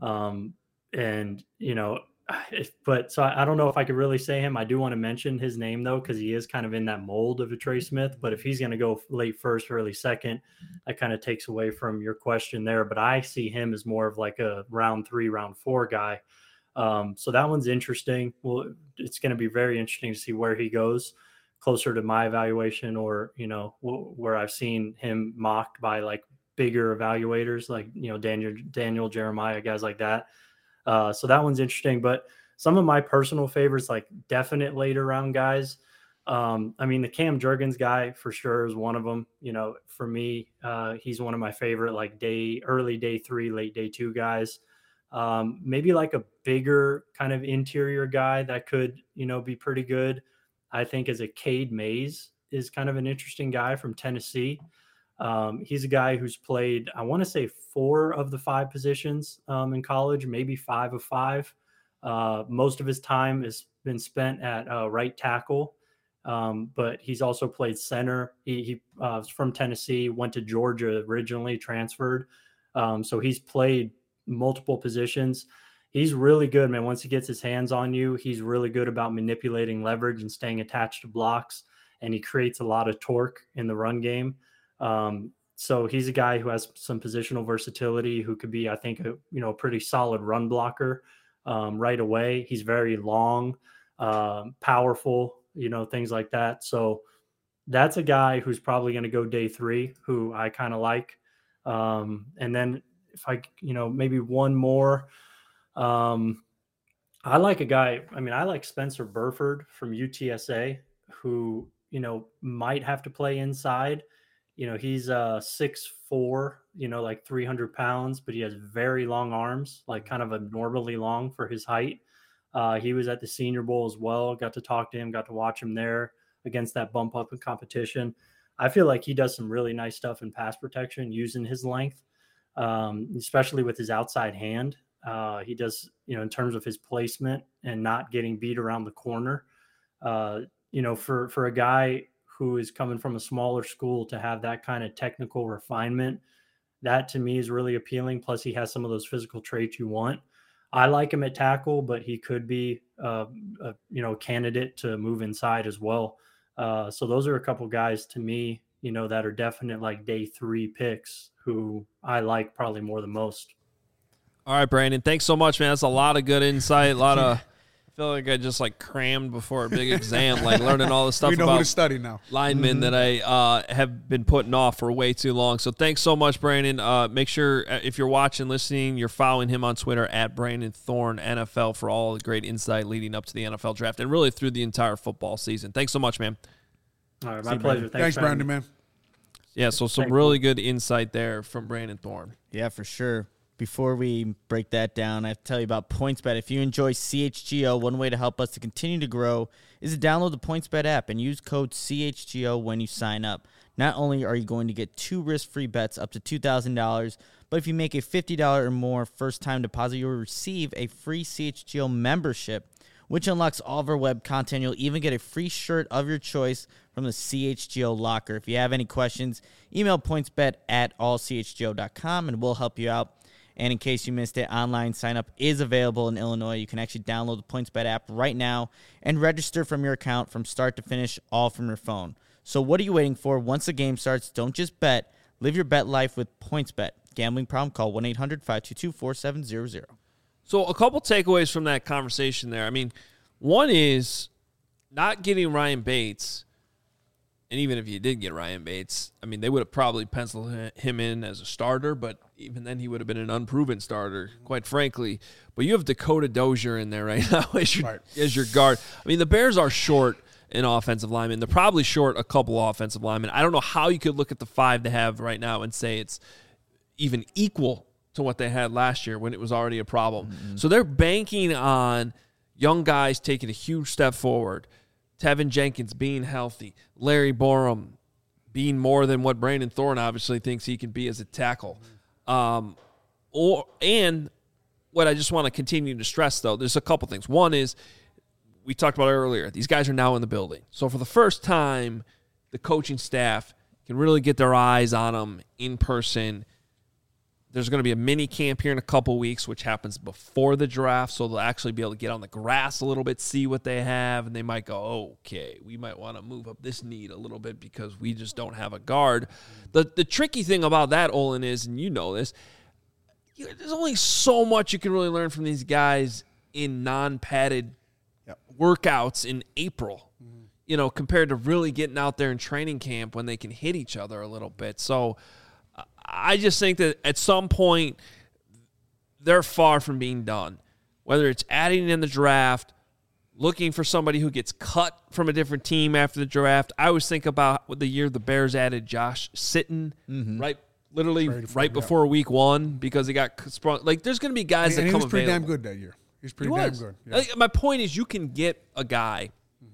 So I don't know if I could really say him. I do want to mention his name, though, because he is kind of in that mold of a Trey Smith. But if he's going to go late first, early second, that kind of takes away from your question there. But I see him as more of like a round 3, round 4 guy. So that one's interesting. Well, it's going to be very interesting to see where he goes, closer to my evaluation or, where I've seen him mocked by like bigger evaluators like, Daniel Jeremiah, guys like that. So that one's interesting, but some of my personal favorites, like definite later round guys. The Cam Jurgens guy for sure is one of them. For me, he's one of my favorite, like early day 3, late day 2 guys. Maybe like a bigger kind of interior guy that could, be pretty good. I think as a Cade Mays is kind of an interesting guy from Tennessee. He's a guy who's played, I want to say 4 of the 5 positions in college, maybe 5 of 5. Most of his time has been spent at right tackle, but he's also played center. He's from Tennessee, went to Georgia originally, transferred. So he's played multiple positions. He's really good, man. Once he gets his hands on you, he's really good about manipulating leverage and staying attached to blocks, and he creates a lot of torque in the run game. So he's a guy who has some positional versatility, who could be, I think, a pretty solid run blocker right away. He's very long, powerful, things like that. So that's a guy who's probably going to go day 3, who I kind of like. And then if I, maybe one more, I like a guy, I like Spencer Burford from UTSA, who, might have to play inside. He's 6'4", like 300 pounds, but he has very long arms, like kind of abnormally long for his height. He was at the Senior Bowl as well. Got to talk to him, got to watch him there against that bump up in competition. I feel like he does some really nice stuff in pass protection using his length, especially with his outside hand. He does, in terms of his placement and not getting beat around the corner. For a guy who is coming from a smaller school to have that kind of technical refinement, that to me is really appealing. Plus he has some of those physical traits you want. I like him at tackle, but he could be, a candidate to move inside as well. So those are a couple guys to me, that are definite like day 3 picks who I like probably more than most. All right, Brandon, thanks so much, man. That's a lot of good insight, a lot of feel like I just like crammed before a big exam, like learning all the stuff We know who about to study now. linemen that I have been putting off for way too long. So thanks so much, Brandon. Make sure if you're watching, listening, you're following him on Twitter at Brandon Thorne NFL for all the great insight leading up to the NFL draft and really through the entire football season. Thanks so much, man. All right, my pleasure. Thanks, Brandon, man. Yeah, so some really good insight there from Brandon Thorne. Yeah, for sure. Before we break that down, I have to tell you about PointsBet. If you enjoy CHGO, one way to help us to continue to grow is to download the PointsBet app and use code CHGO when you sign up. Not only are you going to get 2 risk-free bets up to $2,000, but if you make a $50 or more first-time deposit, you'll receive a free CHGO membership, which unlocks all of our web content. You'll even get a free shirt of your choice from the CHGO locker. If you have any questions, email pointsbet@allchgo.com and we'll help you out. And in case you missed it, online sign-up is available in Illinois. You can actually download the PointsBet app right now and register from your account from start to finish, all from your phone. So what are you waiting for? Once the game starts, don't just bet. Live your bet life with PointsBet. Gambling problem? Call 1-800-522-4700. So a couple takeaways from that conversation there. I mean, one is not getting Ryan Bates. And even if you did get Ryan Bates, I mean, they would have probably penciled him in as a starter, but even then he would have been an unproven starter, quite frankly. But you have Dakota Dozier in there right now as your guard. I mean, the Bears are short an offensive lineman. They're probably short a couple offensive linemen. I don't know how you could look at the 5 they have right now and say it's even equal to what they had last year when it was already a problem. Mm-hmm. So they're banking on young guys taking a huge step forward. Tevin Jenkins being healthy, Larry Borum being more than what Brandon Thorne obviously thinks he can be as a tackle. And what I just want to continue to stress, though, there's a couple things. One is, we talked about earlier, these guys are now in the building. So for the first time, the coaching staff can really get their eyes on them in person. There's going to be a mini camp here in a couple weeks, which happens before the draft, so they'll actually be able to get on the grass a little bit, see what they have, and they might go, okay, we might want to move up this need a little bit because we just don't have a guard. The tricky thing about that, Olin, is, and you know this, there's only so much you can really learn from these guys in non-padded workouts in April, compared to really getting out there in training camp when they can hit each other a little bit. So I just think that at some point they're far from being done. Whether it's adding in the draft, looking for somebody who gets cut from a different team after the draft. I always think about the year the Bears added Josh Sitton, right before week 1 because he got sprung. Like, there's going to be guys that come available. He was pretty damn good that year. He's pretty damn good. Yeah. Like, my point is, you can get a guy.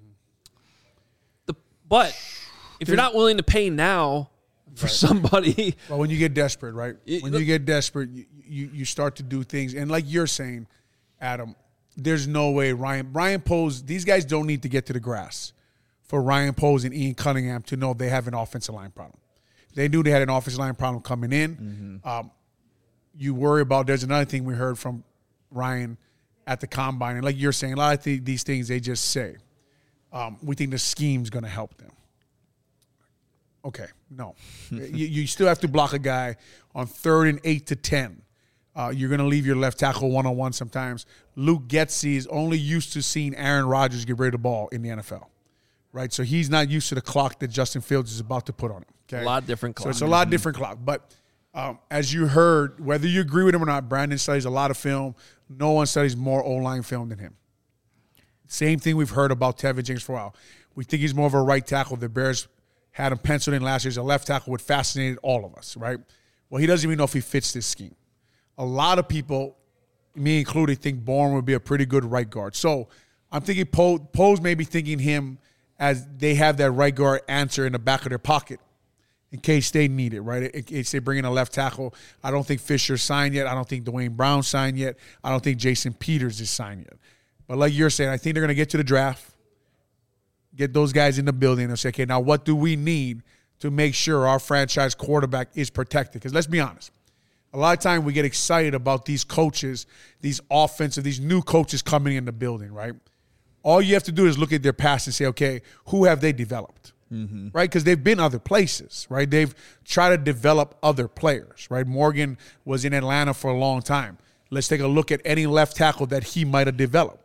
But if you're not willing to pay now for somebody. Well, when you get desperate, right? When you get desperate, you start to do things. And like you're saying, Adam, there's no way Ryan Poles, these guys don't need to get to the grass for Ryan Poles and Ian Cunningham to know they have an offensive line problem. They knew they had an offensive line problem coming in. Mm-hmm. You worry about, there's another thing we heard from Ryan at the combine. And like you're saying, a lot of these things they just say. We think the scheme's going to help them. Okay, no. you still have to block a guy on 3rd and 8 to 10. You're going to leave your left tackle one-on-one sometimes. Luke Getsy is only used to seeing Aaron Rodgers get rid of the ball in the NFL, right? So he's not used to the clock that Justin Fields is about to put on him. Okay? A lot different clock. So it's a lot different clock. But as you heard, whether you agree with him or not, Brandon studies a lot of film. No one studies more O-line film than him. Same thing we've heard about Tevin Jenkins for a while. We think he's more of a right tackle. The Bears had him penciled in last year as a left tackle, which fascinated all of us, right? Well, he doesn't even know if he fits this scheme. A lot of people, me included, think Bourne would be a pretty good right guard. So I'm thinking Poles may be thinking him as they have that right guard answer in the back of their pocket in case they need it, right? In case they bring in a left tackle. I don't think Fisher signed yet. I don't think Dwayne Brown signed yet. I don't think Jason Peters is signed yet. But like you're saying, I think they're going to get to the draft, get those guys in the building and say, okay, now what do we need to make sure our franchise quarterback is protected? Because let's be honest, a lot of time we get excited about these coaches, these new coaches coming in the building, right? All you have to do is look at their past and say, okay, who have they developed, right? Because they've been other places, right? They've tried to develop other players, right? Morgan was in Atlanta for a long time. Let's take a look at any left tackle that he might have developed.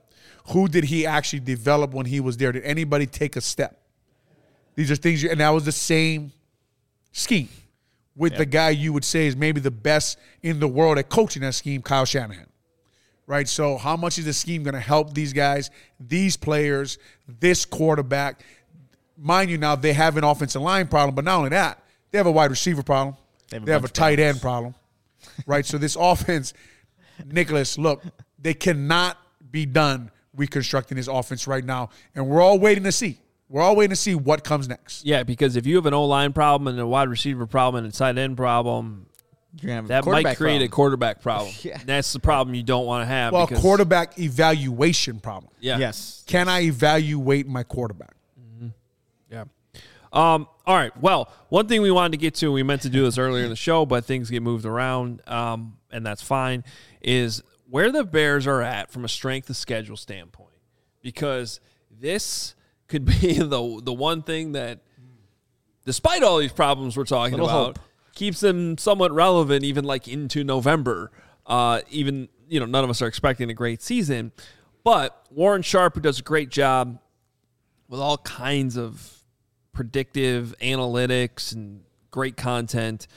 Who did he actually develop when he was there? Did anybody take a step? These are things, and that was the same scheme with the guy you would say is maybe the best in the world at coaching that scheme, Kyle Shanahan. Right? So how much is the scheme going to help these guys, these players, this quarterback? Mind you, now they have an offensive line problem, but not only that, they have a wide receiver problem. They have a tight end problem. Right? So this offense, Nicholas, look, they cannot be done reconstructing this offense right now, and we're all waiting to see. We're all waiting to see what comes next. Yeah, because if you have an O-line problem and a wide receiver problem and a tight end problem, You're gonna have a that might quarterback create a problem. quarterback problem. Yeah. That's the problem you don't want to have. Well, because, quarterback evaluation problem. Yeah. Yes. Can I evaluate my quarterback? Yeah. All right. Well, one thing we wanted to get to, we meant to do this earlier in the show, but things get moved around, and that's fine, is where the Bears are at from a strength of schedule standpoint. Because this could be the one thing that, despite all these problems we're talking Little about, hope. keeps them somewhat relevant even like into November. Even, none of us are expecting a great season. But Warren Sharp, who does a great job with all kinds of predictive analytics and great content,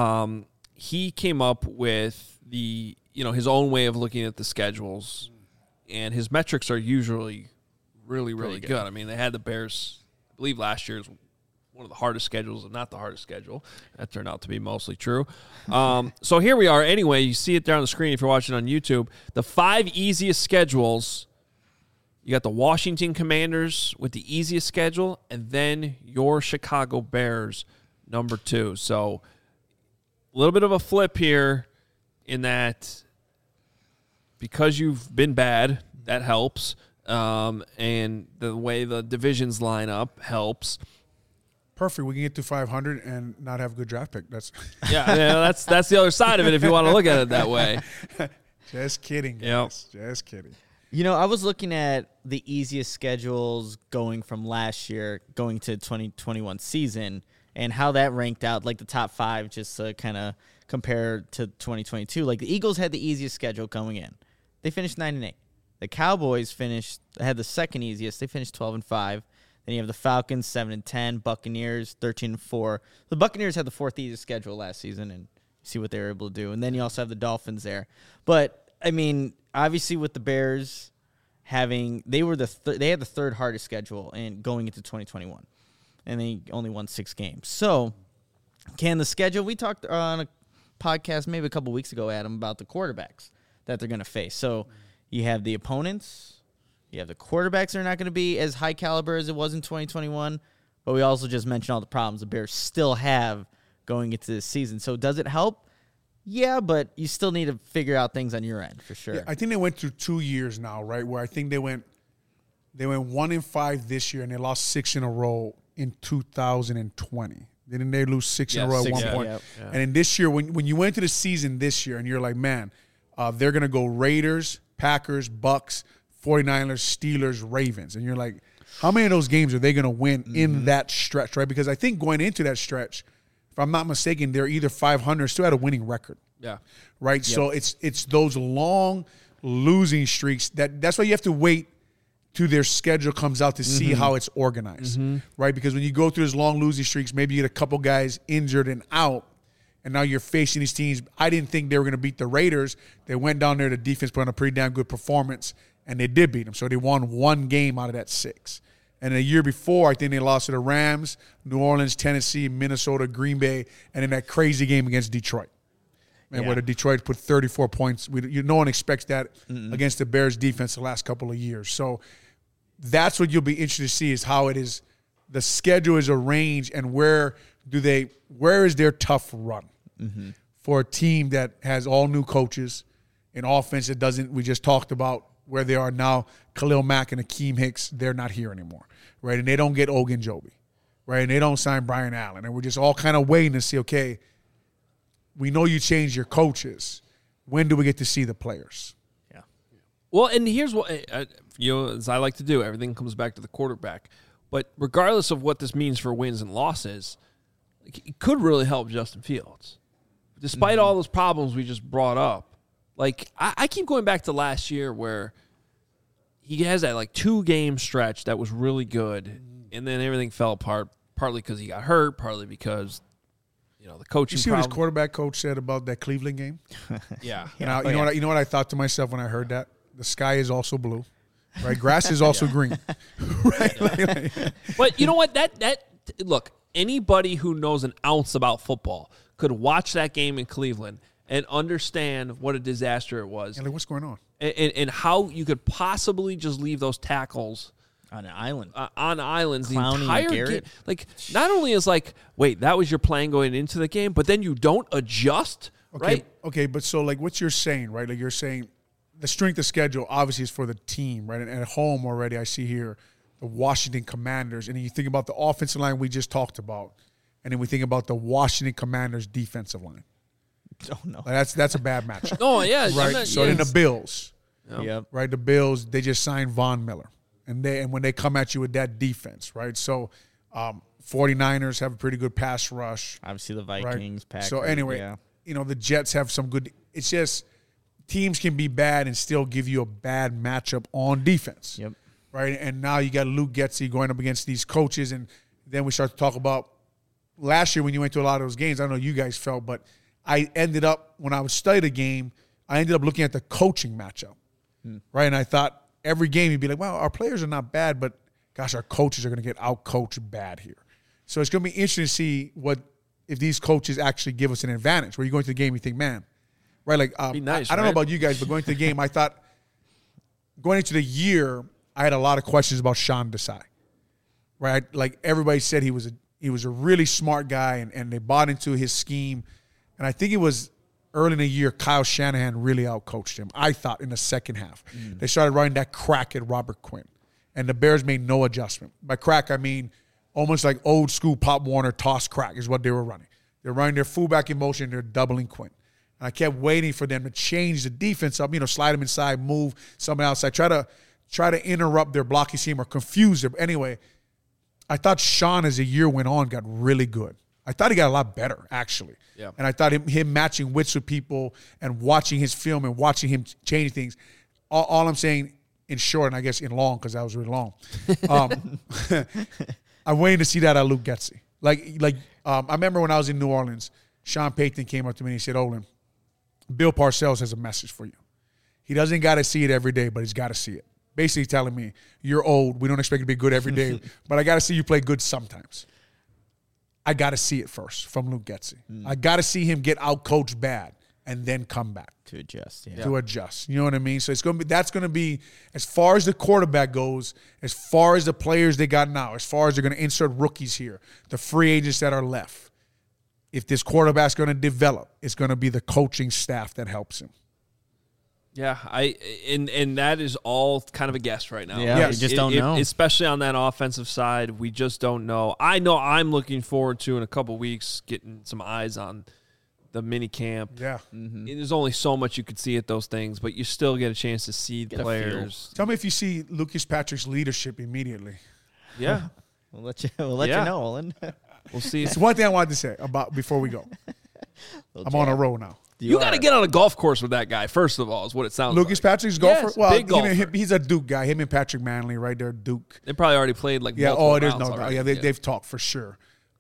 he came up with his own way of looking at the schedules, and his metrics are usually really, really good. I mean, they had the Bears, I believe last year's one of the hardest schedules, if not the hardest schedule. That turned out to be mostly true. So here we are. Anyway, you see it there on the screen if you're watching on YouTube. The 5 easiest schedules. You got the Washington Commanders with the easiest schedule, and then your Chicago Bears, number 2. So a little bit of a flip here in that because you've been bad, that helps. And the way the divisions line up helps. Perfect. We can get to 500 and not have a good draft pick. That's that's the other side of it if you want to look at it that way. just kidding, guys. Just kidding. I was looking at the easiest schedules going from last year, going to 2021 season, and how that ranked out, like the top 5, just to kind of compare to 2022. Like the Eagles had the easiest schedule going in. They finished 9-8. The Cowboys had the second easiest. They finished 12-5. Then you have the Falcons 7-10, Buccaneers 13-4. The Buccaneers had the 4th easiest schedule last season, and see what they were able to do. And then you also have the Dolphins there. But I mean, obviously with the Bears they had the 3rd hardest schedule and going into 2021, and they only won 6 games. So can the schedule? We talked on a podcast maybe a couple weeks ago, Adam, about the quarterbacks that they're going to face. So you have the opponents. You have the quarterbacks that are not going to be as high caliber as it was in 2021, but we also just mentioned all the problems the Bears still have going into this season. So does it help? Yeah, but you still need to figure out things on your end for sure. Yeah, I think they went through 2 years now, right? Where I think they went 1-5 this year, and they lost 6 in a row in 2020. Didn't they lose 6 in a row at one point? Yeah. And in this year, when you went to the season this year, and you're like, man, they're gonna go Raiders, Packers, Bucks, 49ers, Steelers, Ravens. And you're like, how many of those games are they going to win in that stretch, right? Because I think going into that stretch, if I'm not mistaken, they're either 500 or still had a winning record. Yeah. Right? Yep. So it's those long losing streaks that's why you have to wait till their schedule comes out to see how it's organized, right? Because when you go through those long losing streaks, maybe you get a couple guys injured and out, and now you're facing these teams. I didn't think they were going to beat the Raiders. They went down there, the defense put on a pretty damn good performance, and they did beat them. So they won 1 game out of that 6. And the year before, I think they lost to the Rams, New Orleans, Tennessee, Minnesota, Green Bay, and in that crazy game against Detroit. Where the Detroit put 34 points. No one expects that against the Bears defense the last couple of years. So that's what you'll be interested to see is how it is, the schedule is arranged, and where is their tough run for a team that has all new coaches, an offense that doesn't, we just talked about where they are now, Khalil Mack and Akeem Hicks, they're not here anymore, right? And they don't get Ogunjobi, right? And they don't sign Brian Allen. And we're just all kind of waiting to see, okay, we know you changed your coaches. When do we get to see the players? Yeah. Well, and here's what, as I like to do, everything comes back to the quarterback. But regardless of what this means for wins and losses, it could really help Justin Fields. Despite all those problems we just brought up, like I keep going back to last year where he has that like 2-game stretch that was really good, and then everything fell apart. Partly because he got hurt, partly because the coaching. You see what his problem. quarterback coach said about that Cleveland game? Yeah, And you know what I thought to myself when I heard that? The sky is also blue, right? Grass is also green, right? But you know what? That look, anybody who knows an ounce about football could watch that game in Cleveland and understand what a disaster it was, And like, what's going on? and how you could possibly just leave those tackles On an island. on islands the Clowney and entire game. Garrett. Like, not only is like, wait, that was your plan going into the game, but then you don't adjust, Okay, right? okay, but so like what you're saying, right? Like you're saying the strength of schedule obviously is for the team, right? And at home already, I see here the Washington Commanders, and then you think about the offensive line we just talked about, and then we think about the Washington Commanders defensive line. Oh, no. Like that's a bad matchup, Oh yeah, I'm right? not- So then yes. the Bills, Yep. right? The Bills, they just signed Von Miller, and when they come at you with that defense, right? So 49ers have a pretty good pass rush. Obviously, the Right. Vikings, Packers. So anyway, yeah. the Jets have some good. It's just teams can be bad and still give you a bad matchup on defense. Yep. Right. And now you got Luke Getsy going up against these coaches, and then we start to talk about last year when you went to a lot of those games. I don't know how you guys felt, but I ended up when I would study the game, I ended up looking at the coaching matchup. Right. And I thought every game you'd be like, well, our players are not bad, but gosh, our coaches are going to get out-coached bad here. So it's going to be interesting to see if these coaches actually give us an advantage. Where you go into the game, you think, man, right? Like, Be nice, I don't know right? about you guys, but going into the game, I thought going into the year, I had a lot of questions about Sean Desai. Right? Like everybody said he was a really smart guy, and they bought into his scheme. And I think it was early in the year, Kyle Shanahan really outcoached him. I thought in the second half. They started running that crack at Robert Quinn. And the Bears made no adjustment. By crack, I mean almost like old school Pop Warner toss crack is what they were running. They're running their fullback in motion, they're doubling Quinn. And I kept waiting for them to change the defense up, slide them inside, move someone outside, try to interrupt their blocking scheme or confuse them. Anyway, I thought Sean, as the year went on, got really good. I thought he got a lot better, actually. Yeah. And I thought him matching wits with people and watching his film and watching him change things. All I'm saying, in short, and I guess in long, because that was really long, I'm waiting to see that at Luke Getsy. I remember when I was in New Orleans, Sean Payton came up to me and he said, Olin, Bill Parcells has a message for you. He doesn't got to see it every day, but he's got to see it. Basically telling me, you're old. We don't expect you to be good every day, but I got to see you play good sometimes. I got to see it first from Luke Getsy. I got to see him get out-coached bad and then come back. To adjust, yeah. To adjust. You know what I mean? So that's going to be, as far as the quarterback goes, as far as the players they got now, as far as they're going to insert rookies here, the free agents that are left. If this quarterback's going to develop, it's going to be the coaching staff that helps him. Yeah, and that is all kind of a guess right now. Yeah, Yes. we just don't know. Especially on that offensive side, we just don't know. I know I'm looking forward to in a couple weeks getting some eyes on the mini camp. Yeah. And there's only so much you could see at those things, but you still get a chance to see Get a players. Tell me if you see Lucas Patrick's leadership immediately. Yeah, We'll let you Yeah. know, Olin. we'll see. It's one thing I wanted to say about before we go. I'm on a roll now. You got to get on a golf course with that guy, first of all, is what it sounds Lucas like. Patrick's golfer? Yes, Well, big golfer. he's a Duke guy. Him and Patrick Manley, right there, Duke. They probably already played like Yeah, multiple there's rounds no doubt. already. Yeah, they've talked for sure.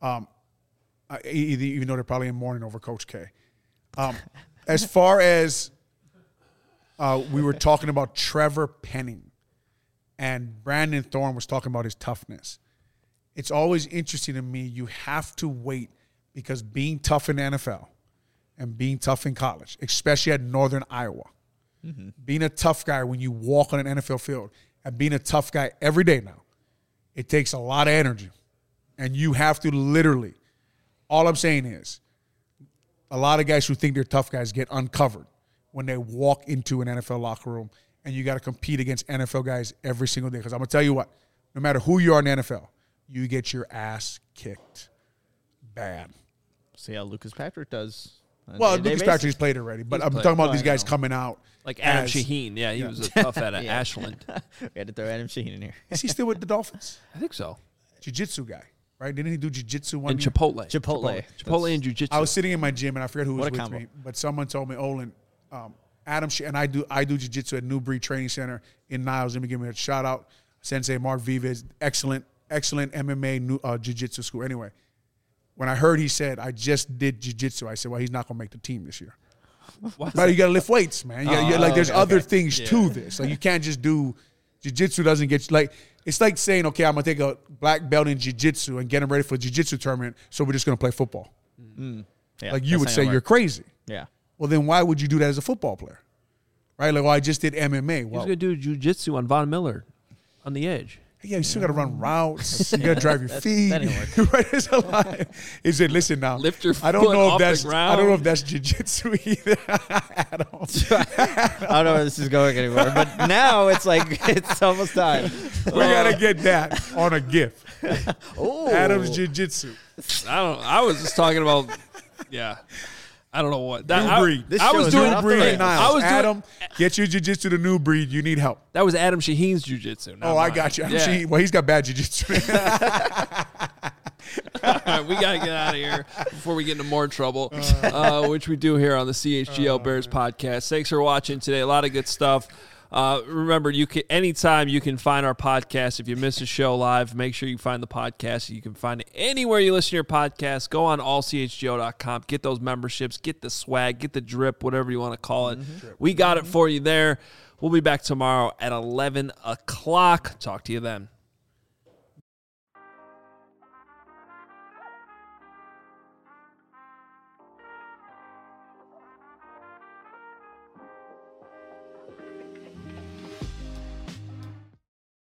Even though they're probably in mourning over Coach K. As far as we were talking about Trevor Penning, and Brandon Thorne was talking about his toughness. It's always interesting to me. You have to wait, because being tough in the NFL and being tough in college, especially at Northern Iowa, being a tough guy when you walk on an NFL field and being a tough guy every day now, it takes a lot of energy. And you have to literally, all I'm saying is, a lot of guys who think they're tough guys get uncovered when they walk into an NFL locker room, and you got to compete against NFL guys every single day. Because I'm going to tell you what, no matter who you are in the NFL, you get your ass kicked bad. See how Lucas Patrick does. on a Well, day-to-day Lucas basis. Patrick's played already, but He's I'm played. talking about No, these I guys know. Like out. Like Adam as- Shaheen. Yeah, he was a tough at Yeah. Ashland. We had to throw Adam Shaheen in here. Is he still with the Dolphins? I think so. Jiu-jitsu guy, right? Didn't he do jiu-jitsu one And year? Chipotle. Chipotle and jiu-jitsu. I was sitting in my gym, and I forget who was What a with combo. me, but someone told me, Olin, Adam, and I do jiu-jitsu at New Breed Training Center in Niles. Let me give him a shout out. Sensei Mark Vives, excellent MMA jiu-jitsu school. Anyway, when I heard he said, I just did jiu-jitsu, I said, well, he's not going to make the team this year. But you got to lift weights, man. There's other things to this. Like, you can't just do jiu-jitsu. Doesn't get like, it's like saying, okay, I'm going to take a black belt in jiu-jitsu and get him ready for a jiu-jitsu tournament, so we're just going to play football. Yeah, Like, you would say you're crazy. Yeah. Well, then why would you do that as a football player? Right? Like, well, I just did MMA. He was Well, going to do jiu-jitsu on Von Miller on the edge. yeah, you still got to run routes. You got to drive your feet. that didn't Right? There's a lot. He said, listen now. Lift your I don't foot know if off the that's. ground. I don't know if that's jiu-jitsu either. At all. I don't know where this is going anymore, but now it's like it's almost time. We gotta get that on a GIF. Oh, Adam's jiu-jitsu. I was just talking about, yeah. I don't know what. New breed. This I show was is doing right off the Breed rails. Niles. I was doing- Adam, get your jiu-jitsu to New Breed. You need help. That was Adam Shaheen's jiu-jitsu. Oh, I got you. Yeah. Well, he's got bad jiu-jitsu. All right, we got to get out of here before we get into more trouble, which we do here on the CHGO Bears podcast. Thanks for watching today. A lot of good stuff. Remember, you can anytime you can find our podcast. If you miss a show live, make sure you find the podcast. You can find it anywhere you listen to your podcast. Go on allchgo.com. Get those memberships. Get the swag. Get the drip, whatever you want to call it. We got it for you there. We'll be back tomorrow at 11 o'clock. Talk to you then.